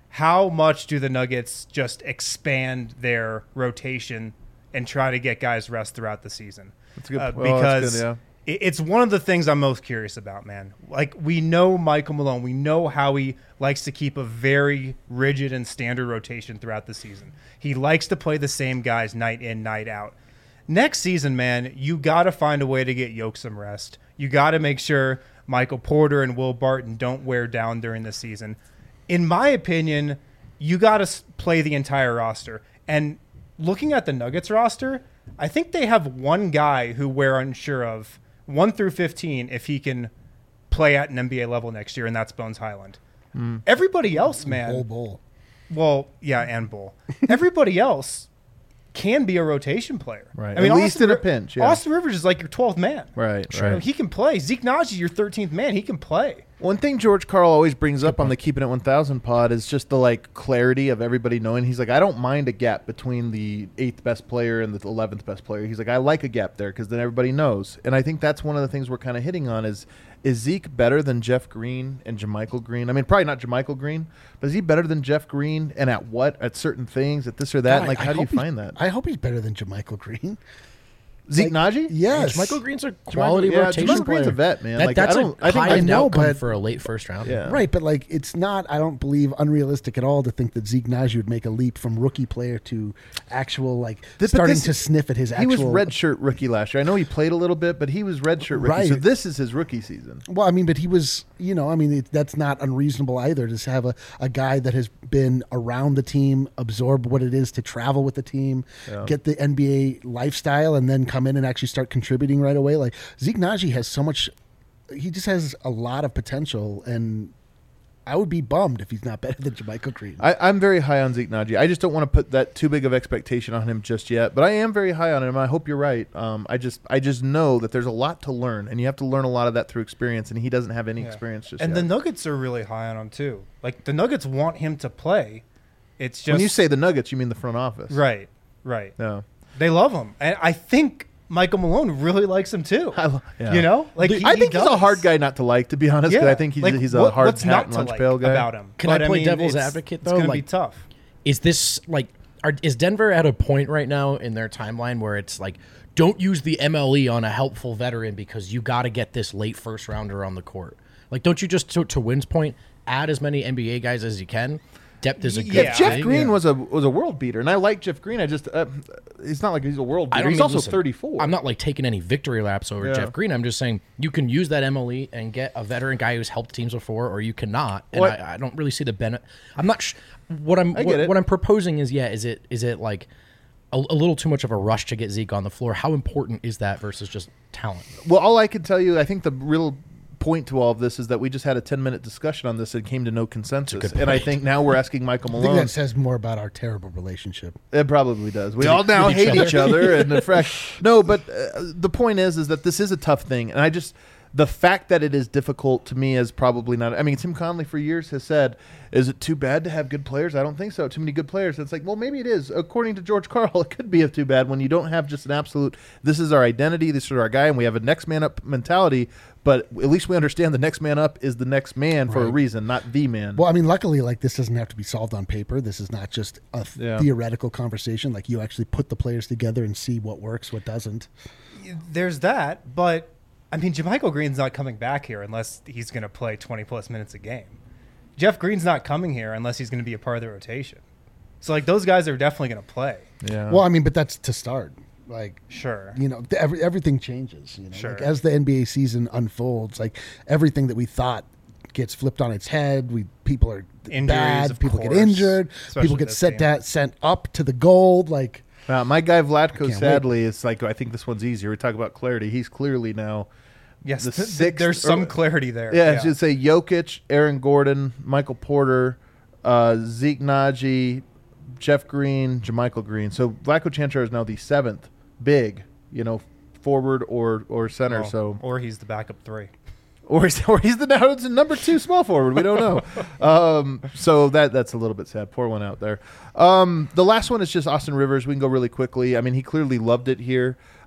how much do the Nuggets just expand their rotation and try to get guys rest throughout the season? That's good. Uh, Well, that's because good, yeah. it- it's one of the things I'm most curious about, man. Like, we know Michael Malone. We know how he likes to keep a very rigid and standard rotation throughout the season. He likes to play the same guys night in, night out. Next season, man, you got to find a way to get Yoke some rest. You got to make sure Michael Porter and Will Barton don't wear down during the season. In my opinion, you got to play the entire roster. And looking at the Nuggets roster, I think they have one guy who we're unsure of, one through fifteen, if he can play at an N B A level next year, and that's Bones Highland. Mm. Everybody else, man. Bull, bull. Well, yeah, and Bull. Everybody else can be a rotation player. Right. I mean, At least Austin in a Ri- pinch, yeah. Austin Rivers is like your twelfth man. Right, You know, right. he can play. Zeke Naji, your thirteenth man. He can play. One thing George Karl always brings up on the Keeping It one thousand pod is just the like clarity of everybody knowing. He's like, I don't mind a gap between the eighth best player and the eleventh best player. He's like, I like a gap there because then everybody knows. And I think that's one of the things we're kind of hitting on is, is Zeke better than Jeff Green and JaMychal Green? I mean, probably not JaMychal Green, but is he better than Jeff Green? And at what? At certain things? At this or that? God, like, I how do you hope he's- find that? I hope he's better than JaMychal Green. Zeke like, Naji? Yes. Michael Green's a quality yeah, rotation JaMychal player. Green's a vet, man. That, Like, that's I don't- a I think- high I end know, outcome but- for a late first round. Yeah. Right, but like it's not, I don't believe, unrealistic at all to think that Zeke Naji would make a leap from rookie player to actual, like, This- but starting this- to sniff at his He actual. was redshirt rookie last year. I know he played a little bit, but he was redshirt rookie. So Right. this is his rookie season. Well, I mean, but he was, you know, I mean, it, that's not unreasonable either to have a, a guy that has been around the team, absorb what it is to travel with the team, Yeah. get the N B A lifestyle, and then come in and actually start contributing right away. Like, Zeke Naji has so much, he just has a lot of potential, and I would be bummed if he's not better than JaMychal Green. I, I'm very high on Zeke Naji. I just don't want to put that too big of expectation on him just yet. But I am very high on him. I hope you're right. Um, I just I just know that there's a lot to learn, and you have to learn a lot of that through experience. And he doesn't have any Yeah. experience just And yet. the Nuggets are really high on him, too. Like, the Nuggets want him to play. It's just. when you say the Nuggets, you mean the front office, Right, right. No, They love him. And I think Michael Malone really likes him, too. I lo- yeah. You know? Like, he, I he think he's a does. hard guy not to like, to be honest. Yeah. But I think he's Like, he's a what- hard what's hat not and to lunch like pail guy about him. Can But, I play mean, devil's it's- advocate, It's though? going to be Like- tough. Is this like, are, is Denver at a point right now in their timeline where it's like, don't use the M L E on a helpful veteran because you got to get this late first rounder on the court? Like, don't you just, to, to Wynn's point, add as many N B A guys as you can? Depth is a good Yeah, Jeff thing. Green yeah. was a was a world beater, and I like Jeff Green. I just uh, it's not like he's a world I beater. don't He's mean- also listen, thirty-four. I'm not like taking any victory laps over Yeah. Jeff Green. I'm just saying you can use that M L E and get a veteran guy who's helped teams before, or you cannot. And What- I, I don't really see the benefit. I'm not. Sh- what I'm I get what, it. what I'm proposing is yeah. Is it is it like a, a little too much of a rush to get Zeke on the floor? How important is that versus just talent? Well, all I can tell you, I think the real point to all of this is that we just had a ten minute discussion on this and came to no consensus. good And I point. think now we're asking Michael I think Malone. that says more about our terrible relationship. It probably does. We all now with each hate other. each other and the fresh. No, but uh, the point is, is that this is a tough thing, and I just the fact that it is difficult to me is probably not. I mean, Tim Conley for years has said, "Is it too bad to have good players?" I don't think so. Too many good players. It's like, well, maybe it is. According to George Karl, it could be too bad when you don't have just an absolute. This is our identity. This is our guy, and we have a next man up mentality. But at least we understand the next man up is the next man for a Right. reason, not the man. Well, I mean, luckily, like this doesn't have to be solved on paper. This is not just a th- Yeah. theoretical conversation. Like you actually put the players together and see what works, what doesn't. There's that, but I mean, JaMychal Green's not coming back here unless he's going to play twenty plus minutes a game. Jeff Green's not coming here unless he's going to be a part of the rotation. So, like, those guys are definitely going to play. yeah. Well, I mean, but that's to start. Like, Sure. you know, th- every, everything changes. You know, Sure. like as the N B A season unfolds, like everything that we thought gets flipped on its head. We people are Injuries, bad. of People get course, injured. especially People get this sent game. down, sent up to the gold. Like, Uh, my guy Vlatko, wait. sadly, is like, I think this one's easier. We talk about clarity. He's clearly now. Yes, the th- th- sixth- there's some or- clarity there. Yeah, I should say Jokic, Aaron Gordon, Michael Porter, uh, Zeke Naji, Jeff Green, JaMychal Green. So Vlatko Chanchar is now the seventh big, you know, forward or or center. Oh, So or he's the backup three. or he's, or he's the now it's a number two small forward. We don't know. um, so that that's a little bit sad. Pour one out there. Um, the last one is just Austin Rivers. We can go really quickly. I mean, he clearly loved it here.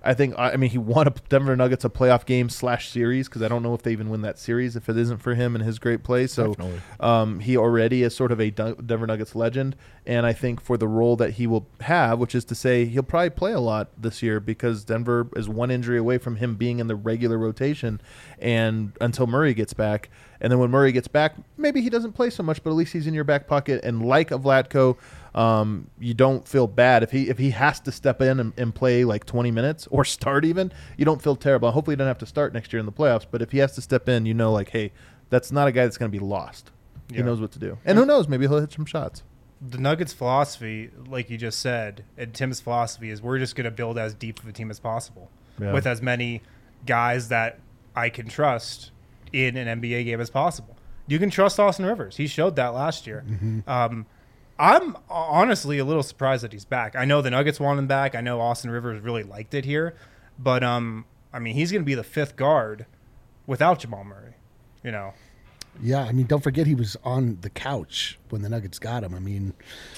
I think, I mean, he won a Denver Nuggets a playoff game slash series because I don't know if they even win that series if it isn't for him and his great play. So um, he already is sort of a Denver Nuggets legend. And I think for the role that he will have, which is to say he'll probably play a lot this year because Denver is one injury away from him being in the regular rotation and until Murray gets back. And then when Murray gets back, maybe he doesn't play so much, but at least he's in your back pocket. And like a Vlatko, um, you don't feel bad. If he if he has to step in and, and play like twenty minutes or start even, you don't feel terrible. Hopefully he doesn't have to start next year in the playoffs. But if he has to step in, you know, like, hey, that's not a guy that's going to be lost. He Yeah. knows what to do. And who knows, maybe he'll hit some shots. The Nuggets' philosophy, like you just said, and Tim's philosophy is we're just going to build as deep of a team as possible Yeah. with as many guys that I can trust in an N B A game as possible. You can trust Austin Rivers. He showed that last year. Mm-hmm. Um, I'm honestly a little surprised that he's back. I know the Nuggets want him back. I know Austin Rivers really liked it here. But, um, I mean, he's going to be the fifth guard without Jamal Murray, you know. Yeah, I mean, don't forget he was on the couch when the Nuggets got him. I mean,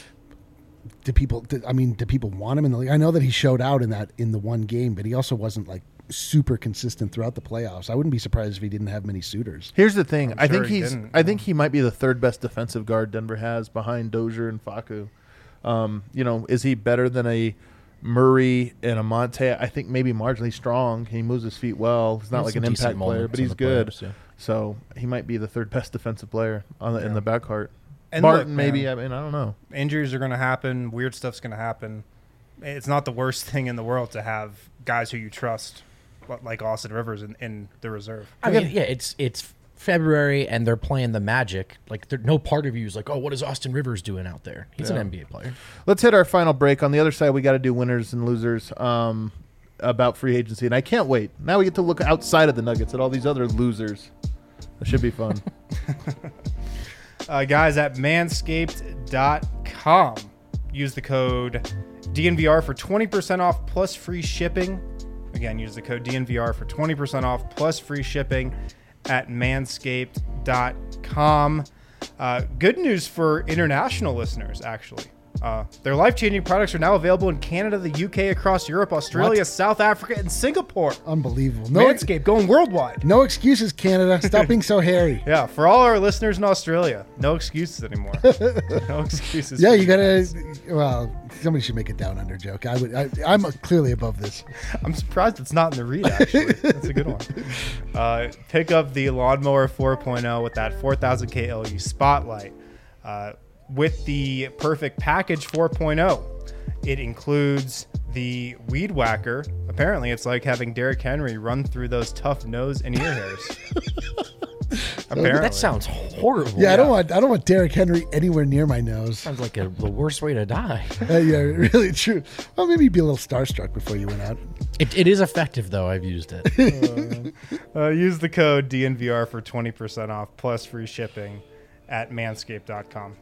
do people? Do, I mean, do people want him in the league? I know that he showed out in that in the one game, but he also wasn't like super consistent throughout the playoffs. I wouldn't be surprised if he didn't have many suitors. Here's the thing. I'm I sure think he he's. didn't, I think no. he might be the third best defensive guard Denver has behind Dozier and Facu. Um, you know, is he better than a Murray and a Monte? I think maybe marginally strong. He moves his feet well. He's not Had like some an decent impact player, moments but in he's the good. playoffs, yeah. So he might be the third best defensive player on the, in Yeah. the backcourt. And Martin, look, maybe. man, I mean, I don't know. injuries are going to happen. Weird stuff's going to happen. It's not the worst thing in the world to have guys who you trust, like Austin Rivers, in, in the reserve. I mean, yeah, it's it's February and they're playing the Magic. Like, there, no part of you is like, oh, what is Austin Rivers doing out there? He's an Yeah. N B A player. Let's hit our final break. On the other side, we got to do winners and losers um, about free agency, and I can't wait. Now we get to look outside of the Nuggets at all these other losers. It should be fun. Uh, guys, at manscaped dot com, use the code D N V R for twenty percent off plus free shipping. Again, use the code D N V R for twenty percent off plus free shipping at manscaped dot com. Uh, good news for international listeners, actually. Uh, their life-changing products are now available in Canada, the U K, across Europe, Australia, What? South Africa, and Singapore. Unbelievable. No, Manscaped going worldwide. no excuses, Canada. Stop being so hairy. Yeah, for all our listeners in Australia, no excuses anymore. No excuses. Yeah, for you gotta. guys. Well, somebody should make a down under joke. I would. I, I'm clearly above this. I'm surprised it's not in the read, actually. That's a good one. Uh, pick up the Lawnmower four point oh with that four thousand K L E spotlight. Uh, with the Perfect Package four point oh, it includes the Weed Whacker. Apparently, it's like having Derrick Henry run through those tough nose and ear hairs. Apparently. That sounds horrible. Yeah, I don't want. I don't want Derrick Henry anywhere near my nose. Sounds like a, the worst way to die. Uh, yeah, really true. Well, maybe you'd be a little starstruck before you went out. It, it is effective, though. I've used it. Uh, use the code D N V R for twenty percent off plus free shipping at manscaped dot com.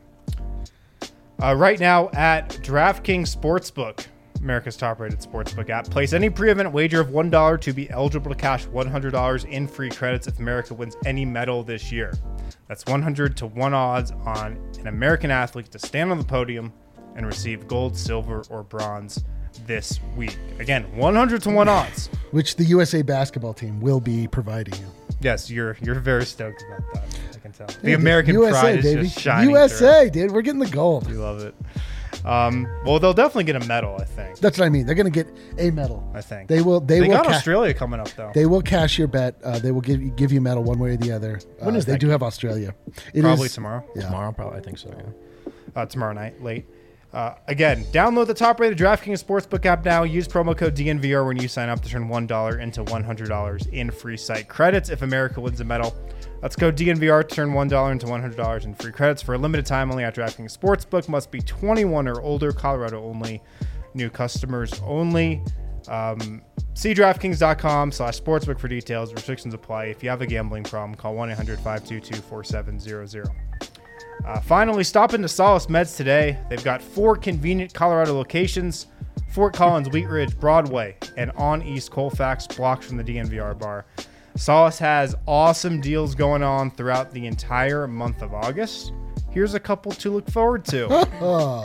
Uh, right now at DraftKings Sportsbook, America's top-rated sportsbook app, place any pre-event wager of one dollar to be eligible to cash one hundred dollars in free credits if America wins any medal this year. That's one hundred to one odds on an American athlete to stand on the podium and receive gold, silver, or bronze this week. Again, one hundred to one odds. Which the U S A basketball team will be providing you. Yes, you're you're very stoked about that. I can tell. The Yeah, American U S A, pride is baby. just shining U S through. A, dude. We're getting the gold. We love it. Um, well, they'll definitely get a medal. I think. That's what I mean. They're going to get a medal. I think They will. They, They will. got ca- Australia coming up though. They will cash your bet. Uh, they will give you, give you a medal one way or the other. Uh, When is they that do game? have Australia. It Probably is- tomorrow. Yeah. Tomorrow, probably. I think so, yeah. Uh, tomorrow night, late. Uh, again, download the top-rated DraftKings Sportsbook app now. Use promo code D N V R when you sign up to turn one dollar into one hundred dollars in free site credits if America wins a medal. That's code D N V R to turn one dollar into one hundred dollars in free credits for a limited time only at DraftKings Sportsbook. Must be twenty-one or older. Colorado only. New customers only. Um, see DraftKings.com slash sportsbook for details. Restrictions apply. If you have a gambling problem, call one eight hundred five two two four seven zero zero. Uh, finally, stop into Solace Meds today. They've got four convenient Colorado locations: Fort Collins, Wheat Ridge, Broadway, and on East Colfax, blocks from the D N V R bar. Solace has awesome deals going on throughout the entire month of August. Here's a couple to look forward to.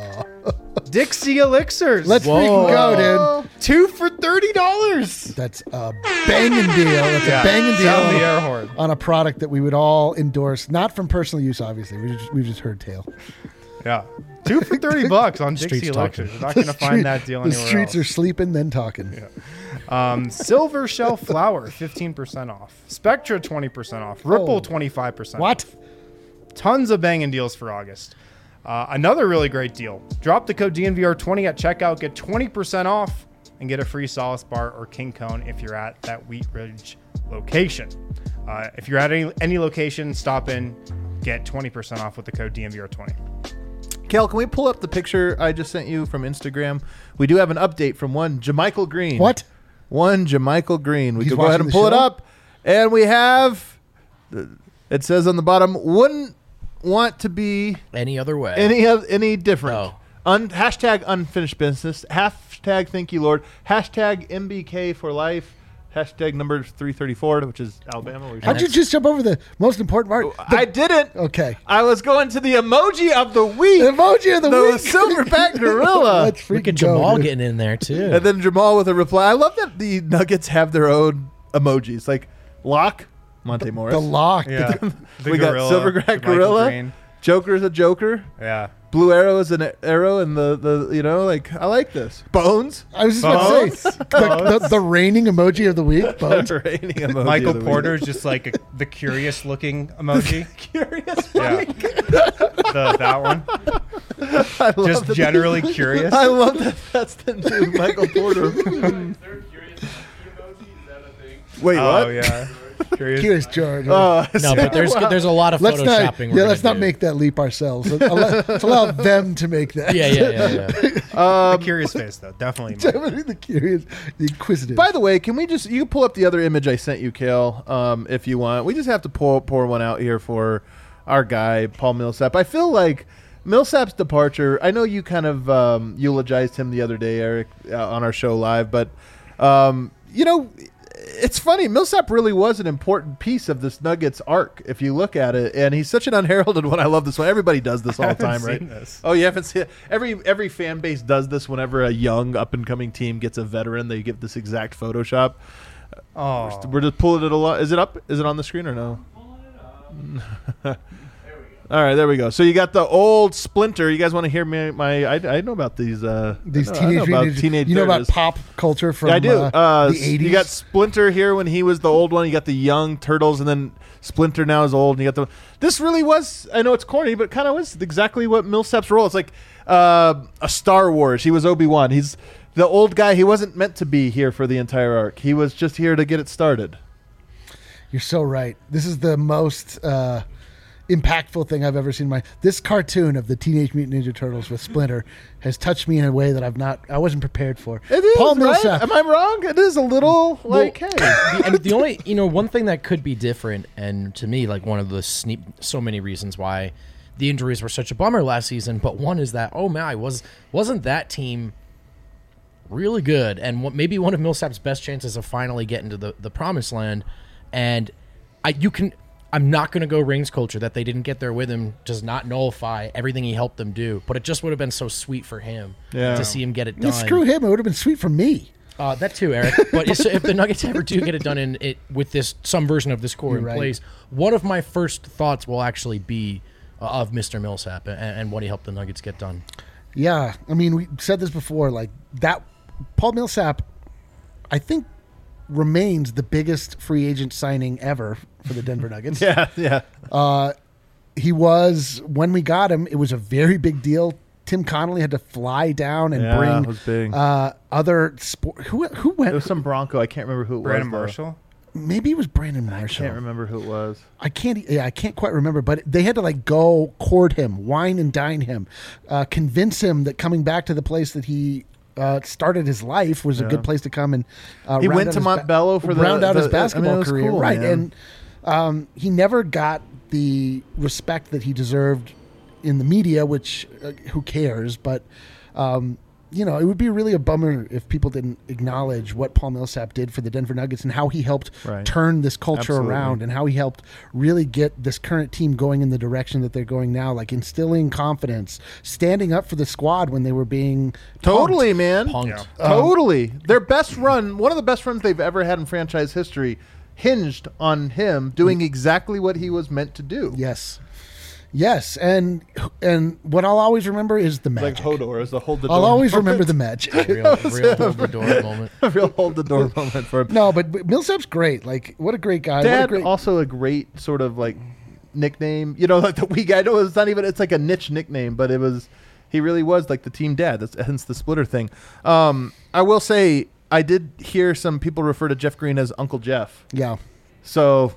Dixie Elixirs. Let's freaking go, dude. two for thirty dollars. That's a banging deal. That's Yeah, a banging sound deal the air horn. on a product that we would all endorse, not from personal use, obviously. We just, we've just heard tale. Yeah, two for thirty bucks on Dixie Streets talking. Elixirs. You're not going to find that deal The anywhere streets else. are sleeping, then talking. Um, Silver Shell Flour, fifteen percent off. Spectra, twenty percent off. Ripple, Oh. twenty-five percent What? off. Tons of banging deals for August. Uh, another really great deal. Drop the code D N V R twenty at checkout. Get twenty percent off and get a free Solace Bar or King Cone if you're at that Wheat Ridge location. Uh, if you're at any, any location, stop in. Get twenty percent off with the code D N V R twenty. Kel, can we pull up the picture I just sent you from Instagram? We do have an update from one Jamichael Green. What? One Jamichael Green. We He's could go ahead watching and the pull it show? up. And we have, it says on the bottom, wouldn't want to be Any other way? any of any different. Oh. Un, hashtag unfinished business. Hashtag thank you, Lord. Hashtag M B K for life. Hashtag number three thirty-four, which is Alabama. Where How'd you just jump over the most important part? The- I didn't. okay. I was going to the emoji of the week. The emoji of the, the week. silverback gorilla. Let's freaking Look at go, Jamal dude. getting in there too. And then Jamal with a reply. I love that the Nuggets have their own emojis. Like Lock, Monte Morris. The lock. Yeah. The we got gorilla, Silverback Jamichael Gorilla. Green. Joker's a Joker. Yeah. Blue Arrow is an arrow, and the, the you know like I like this. Bones. I was just about to say the, the, the reigning emoji of the week. Bones. Raining emoji Michael of the Porter week. is just like a, the curious looking emoji. Curious. Yeah. the, that one. I love Just that- generally curious. I love that. That's the new Michael Porter. Wait, Oh, what? yeah. Curious. Curious George. Uh, no, but there's wow. there's a lot of let's not. photoshopping. Yeah, we're let's gonna not do. make that leap ourselves. Let's allow, let's allow them to make that. Yeah, yeah, yeah, yeah. The curious face, though. Definitely. Mike. Definitely the curious, the inquisitive. By the way, can we just you can pull up the other image I sent you, Kale, um, if you want. We just have to pour pour one out here for our guy Paul Millsap. I feel like Millsap's departure. I know you kind of um, eulogized him the other day, Eric, uh, on our show live, but um, you know. It's funny. Millsap really was an important piece of this Nuggets arc, if you look at it, and he's such an unheralded one. I love this one. Everybody does this all the haven't time, right? seen this. Oh, you haven't seen it. Every every fan base does this whenever a young up and coming team gets a veteran. They give this exact Photoshop. Oh. We're just pulling it a lot. Is it up? Is it on the screen or no? All right, there we go. So you got the old Splinter. You guys want to hear me? My I, I know about these. Uh, These I know, teenage, I know about Mutant Ninja- teenage. You know about Ninjas. pop culture from Yeah, I do. uh, Uh, the eighties. You got Splinter here when he was the old one. You got the young Turtles, and then Splinter now is old. And you got the. This really was. I know it's corny, but kind of was exactly what Millsap's role. It's like uh, a Star Wars. He was Obi-Wan. He's the old guy. He wasn't meant to be here for the entire arc. He was just here to get it started. You're so right. This is the most uh, impactful thing I've ever seen in my. This cartoon of the Teenage Mutant Ninja Turtles with Splinter has touched me in a way that I've not. I wasn't prepared for. It is, Paul right? Millsap. Am I wrong? It is a little like, hey. the, and the only you know one thing that could be different, and to me like one of the sneak, so many reasons why the injuries were such a bummer last season. But one is that oh my was wasn't that team really good, and what, maybe one of Millsap's best chances of finally getting to the the promised land. And I you can. I'm not going to go rings culture. That they didn't get there with him does not nullify everything he helped them do. But it just would have been so sweet for him Yeah. to see him get it Well, done. screw him. It would have been sweet for me. Uh, that too, Eric. But if, if the Nuggets ever do get it done in it with this some version of this core You're in right. place, one of my first thoughts will actually be uh, of Mister Millsap and, and what he helped the Nuggets get done. Yeah, I mean, we said this before. Like that, Paul Millsap, I think, remains the biggest free agent signing ever for the Denver Nuggets. Yeah, yeah. Uh, he was when we got him. It was a very big deal. Tim Connolly had to fly down and Yeah, bring it was big. Uh, other sport. Who who It went? was some Bronco. I can't remember who it Brandon was. though. Marshall. Maybe it was Brandon I Marshall. can't remember who it was. I can't. Yeah, I can't quite remember. But they had to like go court him, wine and dine him, uh, convince him that coming back to the place that he uh, started his life was a Yeah. good place to come and. Uh, He round went out to his ba- Montbello for the- round out the- his I mean, it basketball was career, cool, right? man. And um, he never got the respect that he deserved in the media, which uh, who cares? But um, you know, it would be really a bummer if people didn't acknowledge what Paul Millsap did for the Denver Nuggets and how he helped Right. turn this culture Absolutely. around and how he helped really get this current team going in the direction that they're going now, like instilling confidence, standing up for the squad when they were being Totally, punked. man. Punked. Yeah. Totally. Their best run, one of the best runs they've ever had in franchise history, hinged on him doing exactly what he was meant to do. Yes. Yes, and and what I'll always remember is the Like magic. Hodor as the hold the door. I'll always remember the magic. Real, real hold the door moment. a real hold the door moment for him. No, but, but Millsap's great. Like, what a great guy. what a Dad, great, also a great sort of like nickname. You know, like the wee guy. I know it's not even. It's like a niche nickname, but it was. He really was like the team dad. That's hence the splitter thing. Um, I will say I did hear some people refer to Jeff Green as Uncle Jeff. yeah. So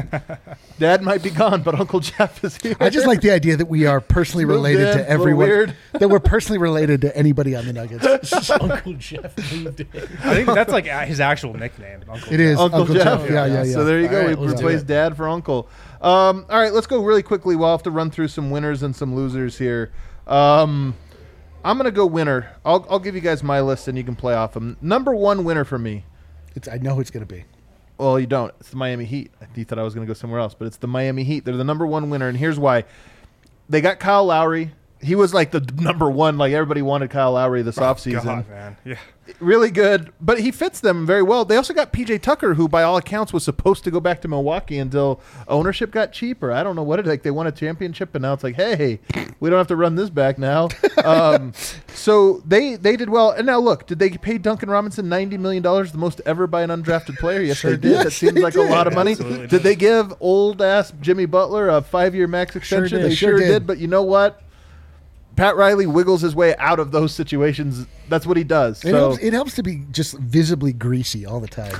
Dad might be gone, but Uncle Jeff is here. I just like the idea that we are personally Moved related in, to a little everyone. weird. That we're personally related to anybody on the Nuggets. Uncle Jeff moved in. I think that's like a- his actual nickname. Uncle It is Uncle, Uncle Jeff. Jeff. Yeah, yeah, yeah. So there you go. All right, we let's do replaced it. Dad for Uncle. Um, all right, let's go really quickly. We'll have to run through some winners and some losers here. Um, I'm going to go winner. I'll, I'll give you guys my list and you can play off them. Number one winner for me. It's, I know who it's going to be. Well, you don't. It's the Miami Heat. You thought I was going to go somewhere else, but it's the Miami Heat. They're the number one winner, and here's why. They got Kyle Lowry. He was like the number one. Like everybody wanted Kyle Lowry this offseason. God, man. Yeah. Really good, but he fits them very well. They also got P J Tucker, who by all accounts was supposed to go back to Milwaukee until ownership got cheaper. I don't know what it like. They won a championship, and now it's like, hey, we don't have to run this back now. um, so they they did well. And now look, did they pay Duncan Robinson ninety million dollars, the most ever by an undrafted player? Yes, Sure they did. did. That Yes, seems they like a did. lot of money. Absolutely Did they give old ass Jimmy Butler a five year max extension? did. They Sure sure did. did. But you know what? Pat Riley wiggles his way out of those situations. That's what he does. It, So helps, it helps to be just visibly greasy all the time.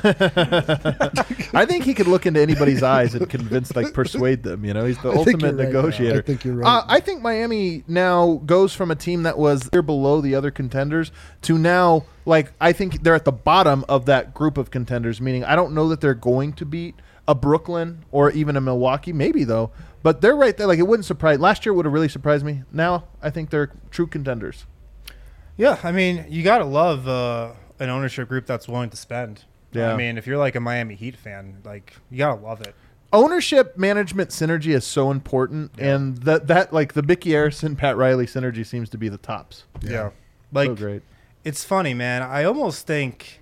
I think he could look into anybody's eyes and convince, like, persuade them. You know, he's the I think ultimate you're right. negotiator. I think you're right. Uh, I think Miami now goes from a team that was here below the other contenders to now, like, I think they're at the bottom of that group of contenders. Meaning, I don't know that they're going to beat a Brooklyn or even a Milwaukee. Maybe though, but they're right there. Like, it wouldn't surprise. Last year would have really surprised me. Now I think they're true contenders. Yeah, I mean, you gotta love uh, an ownership group that's willing to spend. Yeah. I mean, if you're like a Miami Heat fan, like you gotta love it. Ownership management synergy is so important, and that that like the Mickey Arison, Pat Riley synergy seems to be the tops. Yeah, like So great. it's funny, man. I almost think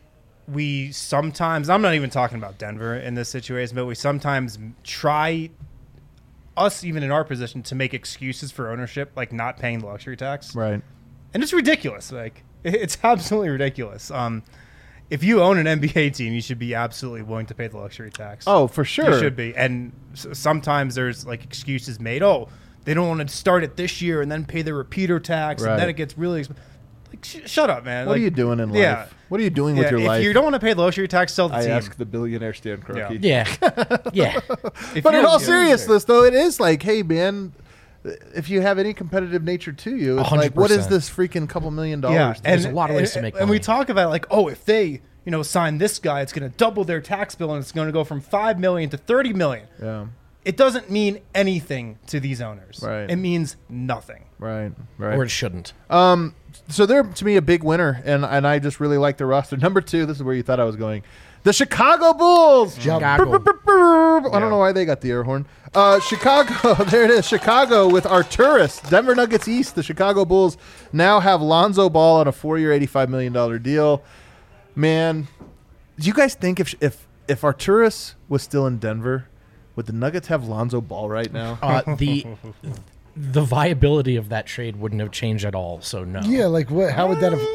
we sometimes, I'm not even talking about Denver in this situation, but we sometimes try, us even in our position, to make excuses for ownership, like not paying the luxury tax. Right. And it's ridiculous. Like, it's absolutely ridiculous. Um, if you own an N B A team, you should be absolutely willing to pay the luxury tax. Oh, for sure. You should be. And s- sometimes there's like excuses made. Oh, they don't want to start it this year and then pay the repeater tax, Right. and then it gets really expensive. Like, sh- shut up, man. What like, are you doing in life? yeah. What are you doing Yeah, with your if life? you don't want to pay the luxury tax, sell the I team. ask the billionaire Stan Kroenke. Yeah. Yeah. If But in you're- all yeah, seriousness, though, it is like, hey, man, if you have any competitive nature to you, it's one hundred like, what is percent. this freaking couple million Yeah, dollars? There's and, a lot of ways and, to make And we money. talk about like, oh, if they, you know, sign this guy, it's going to double their tax bill, and it's going to go from five million to thirty million. Yeah. It doesn't mean anything to these owners. Right. It means nothing. Right. Right. Or it shouldn't. Um, so they're to me a big winner, and and I just really like the roster. Number two, this is where you thought I was going. The Chicago Bulls. Jump. Chicago. Brr, brr, brr, brr. I Yeah. don't know why they got the air horn. Uh, Chicago, there it is. Chicago with Arturis. Denver Nuggets East. The Chicago Bulls now have Lonzo Ball on a four-year, eighty-five million dollars deal. Man, do you guys think if if if Arturis was still in Denver, would the Nuggets have Lonzo Ball right now? Uh, the the viability of that trade wouldn't have changed at all. So no. Yeah, like what? How would that have?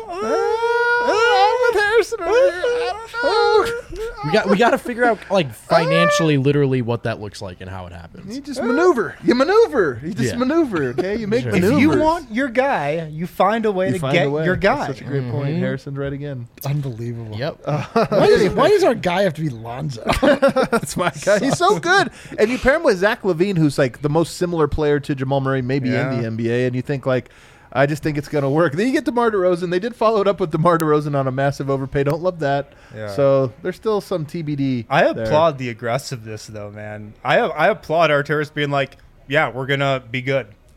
I'm with Harrison over here. I don't know. We got we got to figure out like financially, literally, what that looks like and how it happens. You just maneuver. You maneuver. You just Yeah. maneuver. Okay, you make Sure. maneuvers. If you want your guy, you find a way You to find get a way. your guy. That's such a great point. Harrison's right again. Unbelievable. Yep. Why, is, why does our guy have to be Lonzo? That's my guy. He's so good. And you pair him with Zach LaVine, who's like the most similar player to Jamal Murray, maybe Yeah. in the N B A. And you think like, I just think it's going to work. Then you get DeMar DeRozan. They did follow it up with DeMar DeRozan on a massive overpay. Don't love that. Yeah. So there's still some T B D. I there. applaud the aggressiveness, though, man. I I applaud Arturis being like, yeah, we're gonna be good.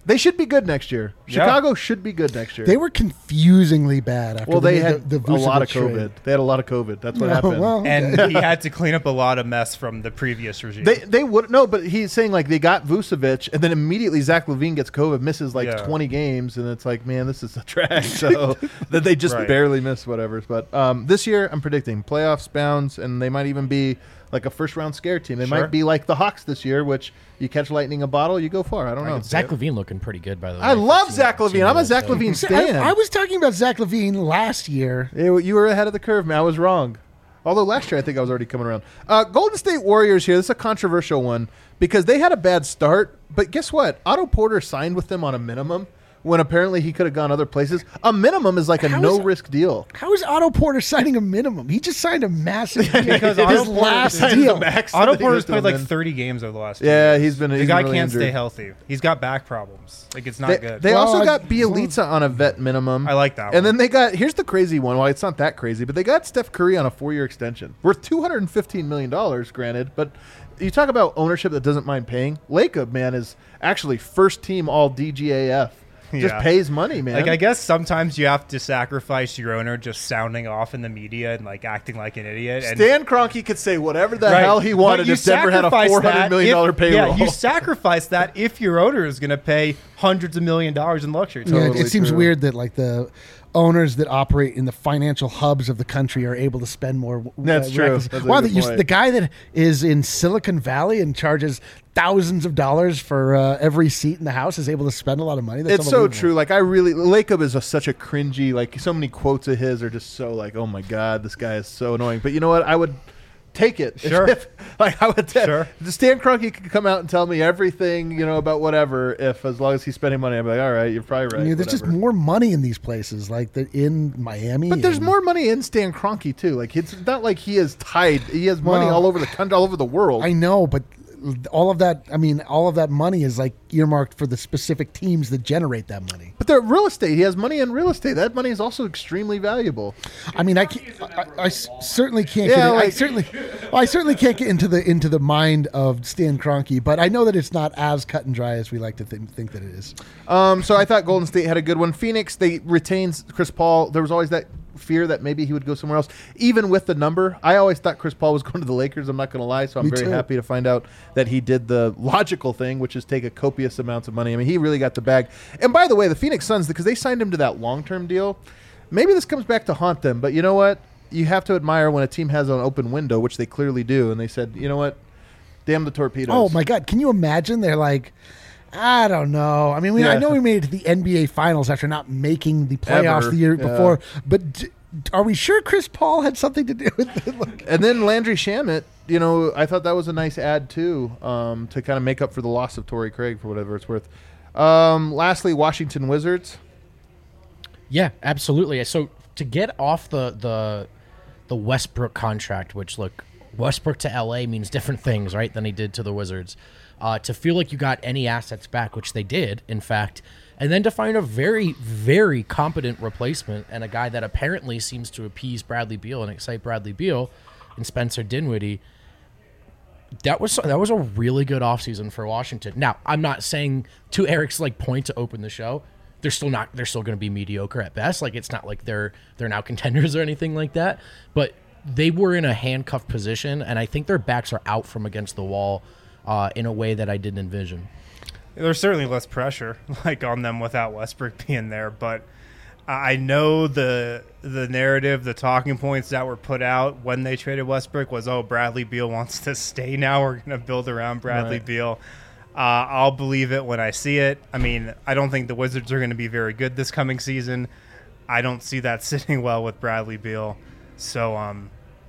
They should be good next year. Yeah. Chicago should be good next year. They were confusingly bad after well, they they made had the, the a lot of Vucevic COVID. trade. They had a lot of COVID. That's what No, happened. well, okay. And he had to clean up a lot of mess from the previous regime. They they would no, but he's saying like they got Vucevic, and then immediately Zach LaVine gets COVID, misses like Yeah. twenty games, and it's like, man, this is a trash. So that they just Right. barely miss whatever. But um, this year, I'm predicting playoffs bounds, and they might even be like a first round scare team. They Sure. might be like the Hawks this year, which you catch lightning a bottle, you go far. I don't know. Zach Levine looking pretty good, by the way. I love Team- Zach team LaVine. I'm a is, Zach uh, LaVine See, stan. I, I was talking about Zach LaVine last year. Yeah, you were ahead of the curve, man. I was wrong. Although last year I think I was already coming around. Uh, Golden State Warriors here. This is a controversial one because they had a bad start, but guess what? Otto Porter signed with them on a minimum when apparently he could have gone other places. A minimum is like a How is- no-risk deal. How is Otto Porter signing a minimum? He just signed a massive deal. Because his Otto Porter last signed deal. the max Otto that he Porter's was played doing like then. thirty games over the last two Yeah, years. he's been- The he's guy been really can't injured. stay healthy. He's got back problems. Like, it's not They, good. they Well, also I- got Bielitsa on a vet minimum. I like that And one. then they got, here's the crazy one. Well, it's not that crazy, but they got Steph Curry on a four-year extension. Worth two hundred fifteen million dollars, granted, but you talk about ownership that doesn't mind paying. Lacob, man, is actually first team all D G A F. Just Yeah. pays money, man. Like, I guess sometimes you have to sacrifice your owner just sounding off in the media and like acting like an idiot. And Stan Kroenke could say whatever the Right. hell he But wanted you if Denver had a sacrifice four hundred that million dollars if- payroll. Yeah, you sacrifice that if your owner is going to pay hundreds of million dollars in luxury. Yeah, Totally it seems true. weird that like the owners that operate in the financial hubs of the country are able to spend more. uh, That's true. reckless- That's a Wow, good that you, point. the guy that is in Silicon Valley and charges thousands of dollars for uh, every seat in the house is able to spend a lot of money. That's It's so unbelievable. true. Like I really, Lacob is a, such a cringy. Like so many quotes of his are just so like, oh my god, this guy is so annoying. But you know what? I would take it. If- Sure. if- like I would. T- Sure. Stan Kroenke could come out and tell me everything, you know, about whatever. If as long as he's spending money, I'm like, all right, you're probably right. I mean, there's just whatever. more money in these places, like the, in Miami. But there's and- more money in Stan Kroenke too. Like it's not like he is tied. He has money Well, all over the country, all over the world. I know, but all of that, I mean, all of that money is like earmarked for the specific teams that generate that money. But the real estate, he has money in real estate. That money is also extremely valuable. I mean, I, can't, I, I s- certainly can't. Yeah, get in- I like- certainly, well, I certainly can't get into the into the mind of Stan Kroenke, but I know that it's not as cut and dry as we like to think, think that it is. Um, so I thought Golden State had a good one. Phoenix, they retains Chris Paul. There was always that fear that maybe he would go somewhere else, even with the number. I always thought Chris Paul was going to the Lakers. I'm not going to lie. So I'm Me very too. happy to find out that he did the logical thing, which is take a copious amounts of money. I mean, he really got the bag. And by the way, the Phoenix Suns, because they signed him to that long-term deal, maybe this comes back to haunt them. But you know what? You have to admire when a team has an open window, which they clearly do. And they said, you know what? Damn the torpedoes. Oh my God! Can you imagine? They're like, I don't know. I mean, we, I Yeah. know we made it to the N B A Finals after not making the playoffs Ever. the year Yeah. before, but. D- Are we sure Chris Paul had something to do with it? Like, And then Landry Shamet, you know, I thought that was a nice add too, um, to kind of make up for the loss of Torrey Craig for whatever it's worth. Um, lastly, Washington Wizards. Yeah, absolutely. So to get off the the the Westbrook contract, which look, Westbrook to L A means different things, right, than he did to the Wizards. Uh, to feel like you got any assets back, which they did, in fact, and then to find a very, very competent replacement and a guy that apparently seems to appease Bradley Beal and excite Bradley Beal and Spencer Dinwiddie. That was that was a really good offseason for Washington. Now, I'm not saying to Eric's like point to open the show, they're still not they're still going to be mediocre at best. Like it's not like they're they're now contenders or anything like that, but they were in a handcuffed position and I think their backs are out from against the wall uh, in a way that I didn't envision. There's certainly less pressure like on them without Westbrook being there, but I know the the narrative, the talking points that were put out when they traded Westbrook was, oh, Bradley Beal wants to stay now. We're going to build around Bradley Right. Beal. Uh, I'll believe it when I see it. I mean, I don't think the Wizards are going to be very good this coming season. I don't see that sitting well with Bradley Beal. So, um,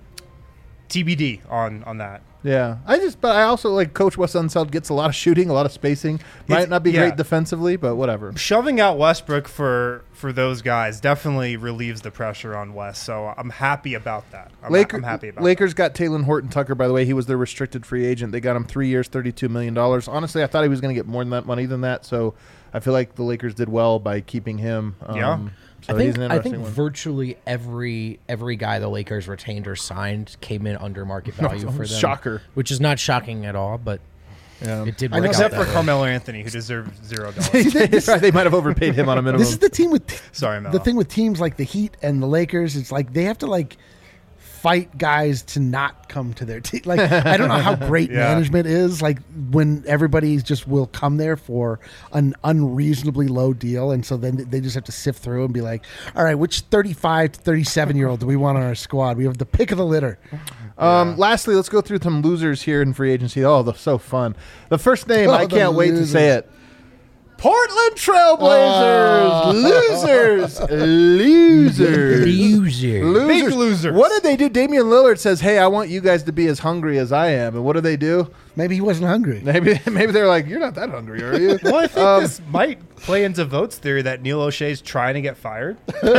T B D on, on that. Yeah, I just, but I also like Coach Wes Unseld gets a lot of shooting, a lot of spacing. Might It's- not be yeah. great defensively, but whatever. Shoving out Westbrook for, for those guys definitely relieves the pressure on West. So I'm happy about that. I'm, Laker, I'm happy about Lakers got Taylor Horton Tucker, by the way. He was their restricted free agent. They got him three years, thirty-two million dollars. Honestly, I thought he was going to get more than that money than that. So I feel like the Lakers did well by keeping him. Um, Yeah. So I think he's an I interesting think one. virtually every every guy the Lakers retained or signed came in under market value for them. Shocker. Which is not shocking at all, but Yeah. It did I know work Except out for that way. Carmelo Anthony, who deserved zero dollars. Right, they might have overpaid him on a minimum. This is the team with Sorry, Melo. the thing with teams like the Heat and the Lakers. It's like they have to like fight guys to not come to their team. Like I don't know how great Yeah. management is. Like when everybody just will come there for an unreasonably low deal, and so then they just have to sift through and be like, all right, which thirty-five to thirty-seven year old do we want on our squad? We have the pick of the litter. Um, Lastly, let's go through some losers here in free agency. Oh, they're so fun. The first name, Oh, I the can't wait to losers. say it. Portland Trailblazers. Oh. Losers. Losers. Loser. Losers. Big losers. What did they do? Damian Lillard says, hey, I want you guys to be as hungry as I am. And what do they do? Maybe he wasn't hungry. Maybe maybe they're like, you're not that hungry, are you? Well, I think Um, this might play into Vote's theory that Neil O'Shea's trying to get fired.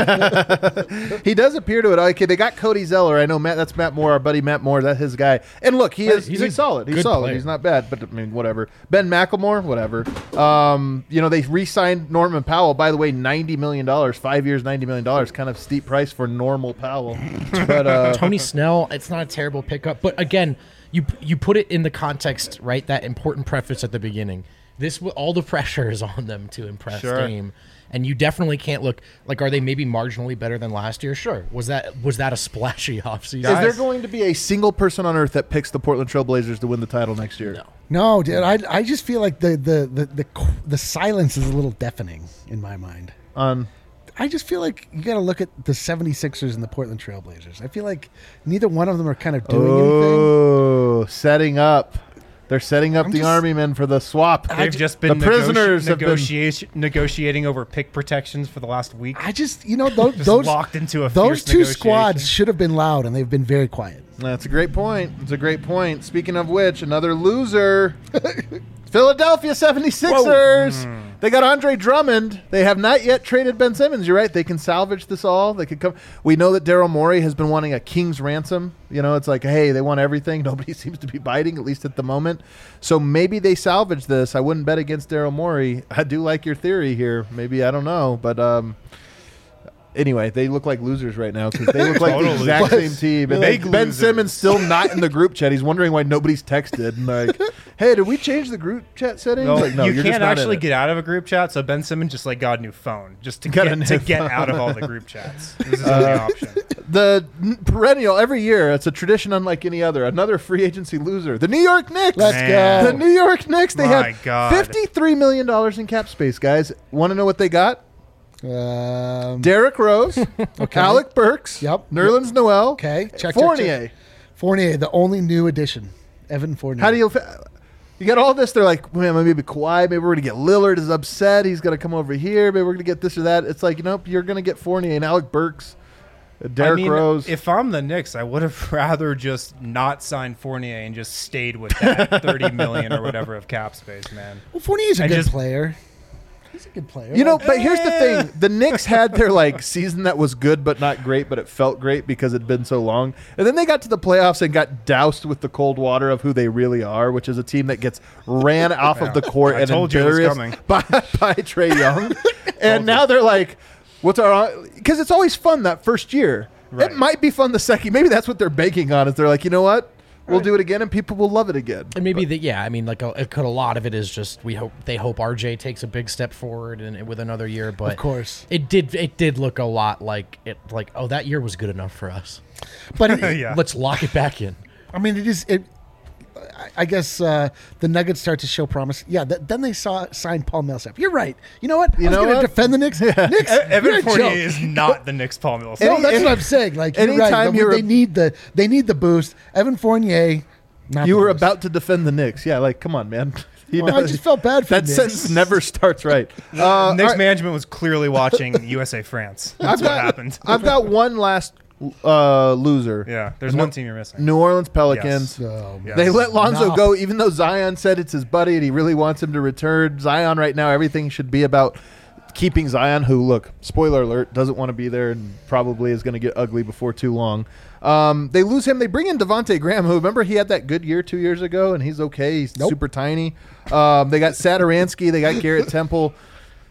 He does appear to it. Okay, they got Cody Zeller. I know Matt. That's Matt Moore, our buddy Matt Moore. That's his guy. And look, he Right, is he's he's, a solid. He's good solid. player. He's not bad. But I mean, whatever. Ben McLemore, whatever. Um, you know, they re-signed Norman Powell. By the way, ninety million dollars, five years, ninety million dollars. Kind of steep price for normal Powell. But uh, Tony Snell, it's not a terrible pickup, but again, you you put it in the context, right? That important preface at the beginning. This w- all the pressure is on them to impress Sure. Dame, and you definitely can't look like. Are they maybe marginally better than last year? Sure. Was that was that a splashy offseason? is there Guys. going to be a single person on earth that picks the Portland Trailblazers to win the title next year? No. No, dude. I I just feel like the the the the, the silence is a little deafening in my mind. On I just feel like you got to look at the seventy-sixers and the Portland Trailblazers. I feel like neither one of them are kind of doing anything. oh, setting up. They're setting up I'm the just- Army men for the swap. They've just been the prisoners negoti- have been- negotiation, negotiating over pick protections for the last week. I just, you know, those Just those, locked into a those fierce two negotiation. squads should have been loud, and they've been very quiet. That's a great point. It's a great point. Speaking of which, another loser. Philadelphia seventy-sixers. They got Andre Drummond. They have not yet traded Ben Simmons. You're right. They can salvage this all. They could come. We know that Daryl Morey has been wanting a king's ransom. You know, it's like, hey, they want everything. Nobody seems to be biting, at least at the moment. So maybe they salvage this. I wouldn't bet against Daryl Morey. I do like your theory here. Maybe, I don't know. But um, anyway, they look like losers right now because they look like the Total exact losers. same team. And Big Ben losers. Simmons still not in the group chat. He's wondering why nobody's texted. And like, hey, did we change the group chat settings? No, Like, no, you you're just can't not in actually it. get out of a group chat, so Ben Simmons just like got a new phone just to Got a get new to get phone. out of all the group chats. This is the only option. The n- perennial every year. It's a tradition unlike any other. Another free agency loser. The New York Knicks. Let's Man. The go. New York Knicks. They My had God. fifty-three million dollars in cap space, guys. Want to know what they got? Um, Derrick Rose, Alec Burks, Yep. Nerlens Noel, okay, check, check, Fournier. check. Fournier, the only new addition. Evan Fournier. How do you? You got all this. They're like, man, maybe Kawhi. Maybe we're gonna get Lillard is upset. He's gonna come over here. Maybe we're gonna get this or that. It's like, you know, you're gonna get Fournier and Alec Burks, uh, Derrick I mean, Rose. if I'm the Knicks, I would have rather just not signed Fournier and just stayed with that thirty million or whatever of cap space, man. Well, Fournier's a I good just- player. He's a good player. You know, Like, but here's the Eh. thing: the Knicks had their like season that was good but not great, but it felt great because it'd been so long. And then they got to the playoffs and got doused with the cold water of who they really are, which is a team that gets ran off of the court I and told you it was embarrassed coming. by by Trey Young. And now they're like, "What's our?" Because it's always fun that first year. Right. It might be fun the second. Maybe that's what they're banking on. Is they're like, you know what? We'll do it again, and people will love it again. And maybe the yeah, I mean, like a, it could a lot of it is just we hope they hope R J takes a big step forward and with another year. But Of course. it did it did look a lot like it like oh that year was good enough for us. But it, Yeah. Let's lock it back in. I mean, it is. It. I- I guess uh, the Nuggets start to show promise. Yeah. Th- then they saw signed Paul Millsap. You're right. You know what? You I was know going to what? defend the Knicks. Knicks. you're Evan a Fournier joke. is not the Knicks Paul Millsap. No, Any- that's any- what I'm saying. Like you're right. anytime They- you're they a- need the they need the boost. Evan Fournier. Not You the were boost. about to defend the Knicks. Yeah, like, come on, man. You Well, I just felt bad for that the Knicks. sentence never starts right. Uh, all Knicks right, management was clearly watching U S A France. That's what got- happened. I've got one last uh, loser. Yeah, there's No- one team you're missing. New Orleans Pelicans. Oh, Yes. They let Lonzo No. go, even though Zion said it's his buddy and he really wants him to return. Zion right now, everything should be about keeping Zion, who, look, spoiler alert, doesn't want to be there and probably is going to get ugly before too long. Um, they lose him. They bring in Devontae Graham, who, remember, he had that good year two years ago, and he's okay. He's Nope. super tiny. Um, they got Saturansky. They got Garrett Temple.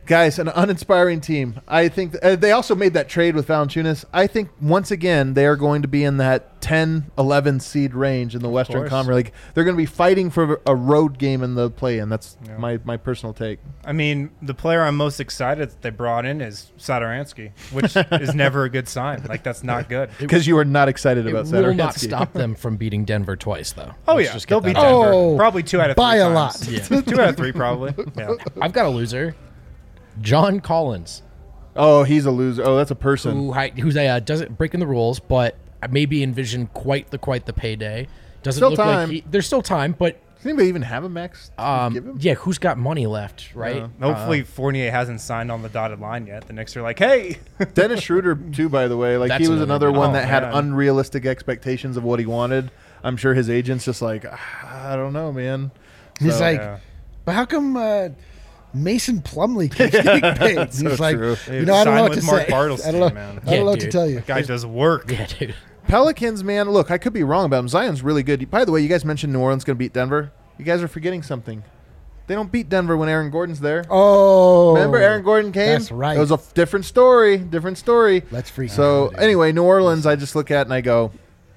Guys, an uninspiring team. I think th- uh, they also made that trade with Valanciunas. I think once again they are going to be in that ten, eleven seed range in the Western course. Conference. Like they're going to be fighting for a road game in the play-in. That's Yeah. my, my personal take. I mean, the player I'm most excited that they brought in is Satoransky, which is never a good sign. Like, that's not good. Because you are not excited It about will Satoransky. not stop them from beating Denver twice, though. Oh, Let's yeah. just get They'll beat that out. Denver. Oh, Probably two out of three by a times. lot. Yeah. Two out of three, probably. Yeah. I've got a loser, John Collins, Oh, he's a loser. Oh, that's a person. who hi- who's a, uh, doesn't breaking the rules, but I maybe envision quite the quite the payday. Doesn't Still look time. like he, there's still time, but Does anybody even have a max? to um, give him? yeah, who's got money left, right? Yeah. Hopefully Fournier hasn't signed on the dotted line yet. The Knicks are like, hey. Dennis Schroeder, too, by the way. Like That's he was another another good one one. that Oh, had man. unrealistic expectations of what he wanted. I'm sure his agent's just like, "Ah, I don't know, man. He's So- like, Yeah. but how come uh, Mason Plumlee keeps getting paid? So He's like, true. you know, I don't Signed know what with to Mark say. Bartelstein, I don't know, man. I don't Yeah, know what to dude. tell you. Guy does work. Yeah, dude. Pelicans, man, look, I could be wrong about him. Zion's really good. By the way, you guys mentioned New Orleans going to beat Denver. You guys are forgetting something. They don't beat Denver when Aaron Gordon's there. Oh, Remember Aaron Gordon came? That's right. It was a f- different story. Different story. Let's freak So out, dude. anyway, New Orleans, I just look at and I go,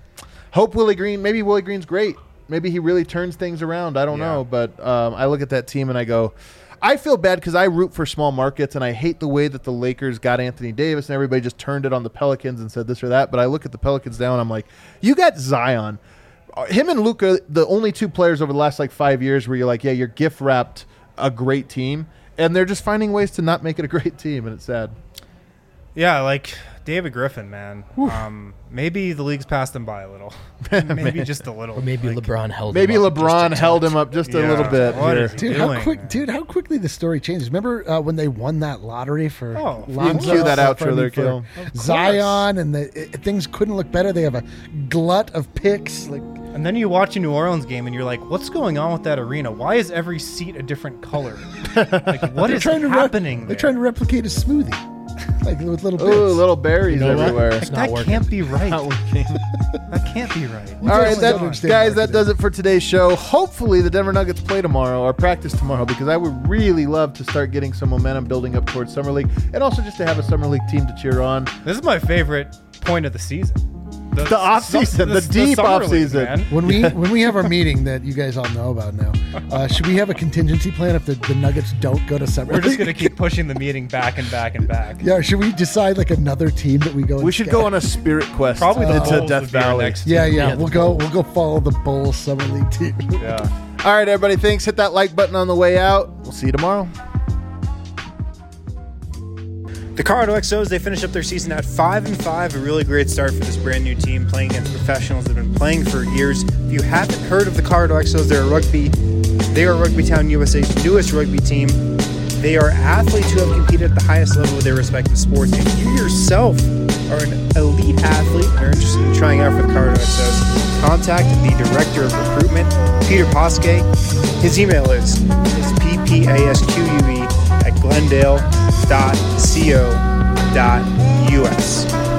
hope Willie Green. Maybe Willie Green's great. Maybe he really turns things around. I don't Yeah. know, but um, I look at that team and I go, I feel bad because I root for small markets and I hate the way that the Lakers got Anthony Davis and everybody just turned it on the Pelicans and said this or that. But I look at the Pelicans now and I'm like, you got Zion. Uh, Him and Luka, the only two players over the last like five years where you're like, yeah, you're gift wrapped a great team, and they're just finding ways to not make it a great team, and it's sad. Yeah, like David Griffin, man. Um, maybe the league's passed him by a little. maybe just a little. Or maybe Like, LeBron held Maybe him up LeBron just a held touch. him up just a Yeah. little bit What here. is he Dude, how doing, quick, man? dude, how quickly the story changes. Remember uh, when they won that lottery for Oh, you You can Lonzo? cue that Uh, outro for- there, for Kill. Zion, and the, it, things couldn't look better. They have a glut of picks. Like, And then you watch a New Orleans game and you're like, what's going on with that arena? Why is every seat a different color? Like, what they're is trying to re- happening they're there? trying to replicate a smoothie, like with little bits. Ooh, little berries You know what? everywhere. It's not that working. can't be right. Not working. That can't be right. We All right, just that, don't understand guys, that marketing. does it for today's show. Hopefully, the Denver Nuggets play tomorrow or practice tomorrow because I would really love to start getting some momentum building up towards Summer League and also just to have a Summer League team to cheer on. This is my favorite point of the season. The off-season, the deep summer league, off-season. man. When we when we have our meeting that you guys all know about now, uh, should we have a contingency plan if the, the Nuggets don't go to summer? We're just league? going to keep pushing the meeting back and back and back. Yeah, should we decide like another team that we go? We and should scout? go on a spirit quest Probably the into Bulls Death would be our Valley. next Yeah, team. yeah, Yeah, we'll the go. We'll go follow the Bulls summer league team. Yeah. All right, everybody, thanks. Hit that like button on the way out. We'll see you tomorrow. The Colorado X Os, they finish up their season at five and five, a really great start for this brand new team playing against professionals that have been playing for years. If you haven't heard of the Colorado X Os, they're a rugby, they are Rugby Town U S A's newest rugby team. They are athletes who have competed at the highest level of their respective sports. If you yourself are an elite athlete and are interested in trying out for the Colorado X Os, contact the Director of Recruitment, Peter Poske. His email is, is p p a s q u e at glendale dot co dot u s.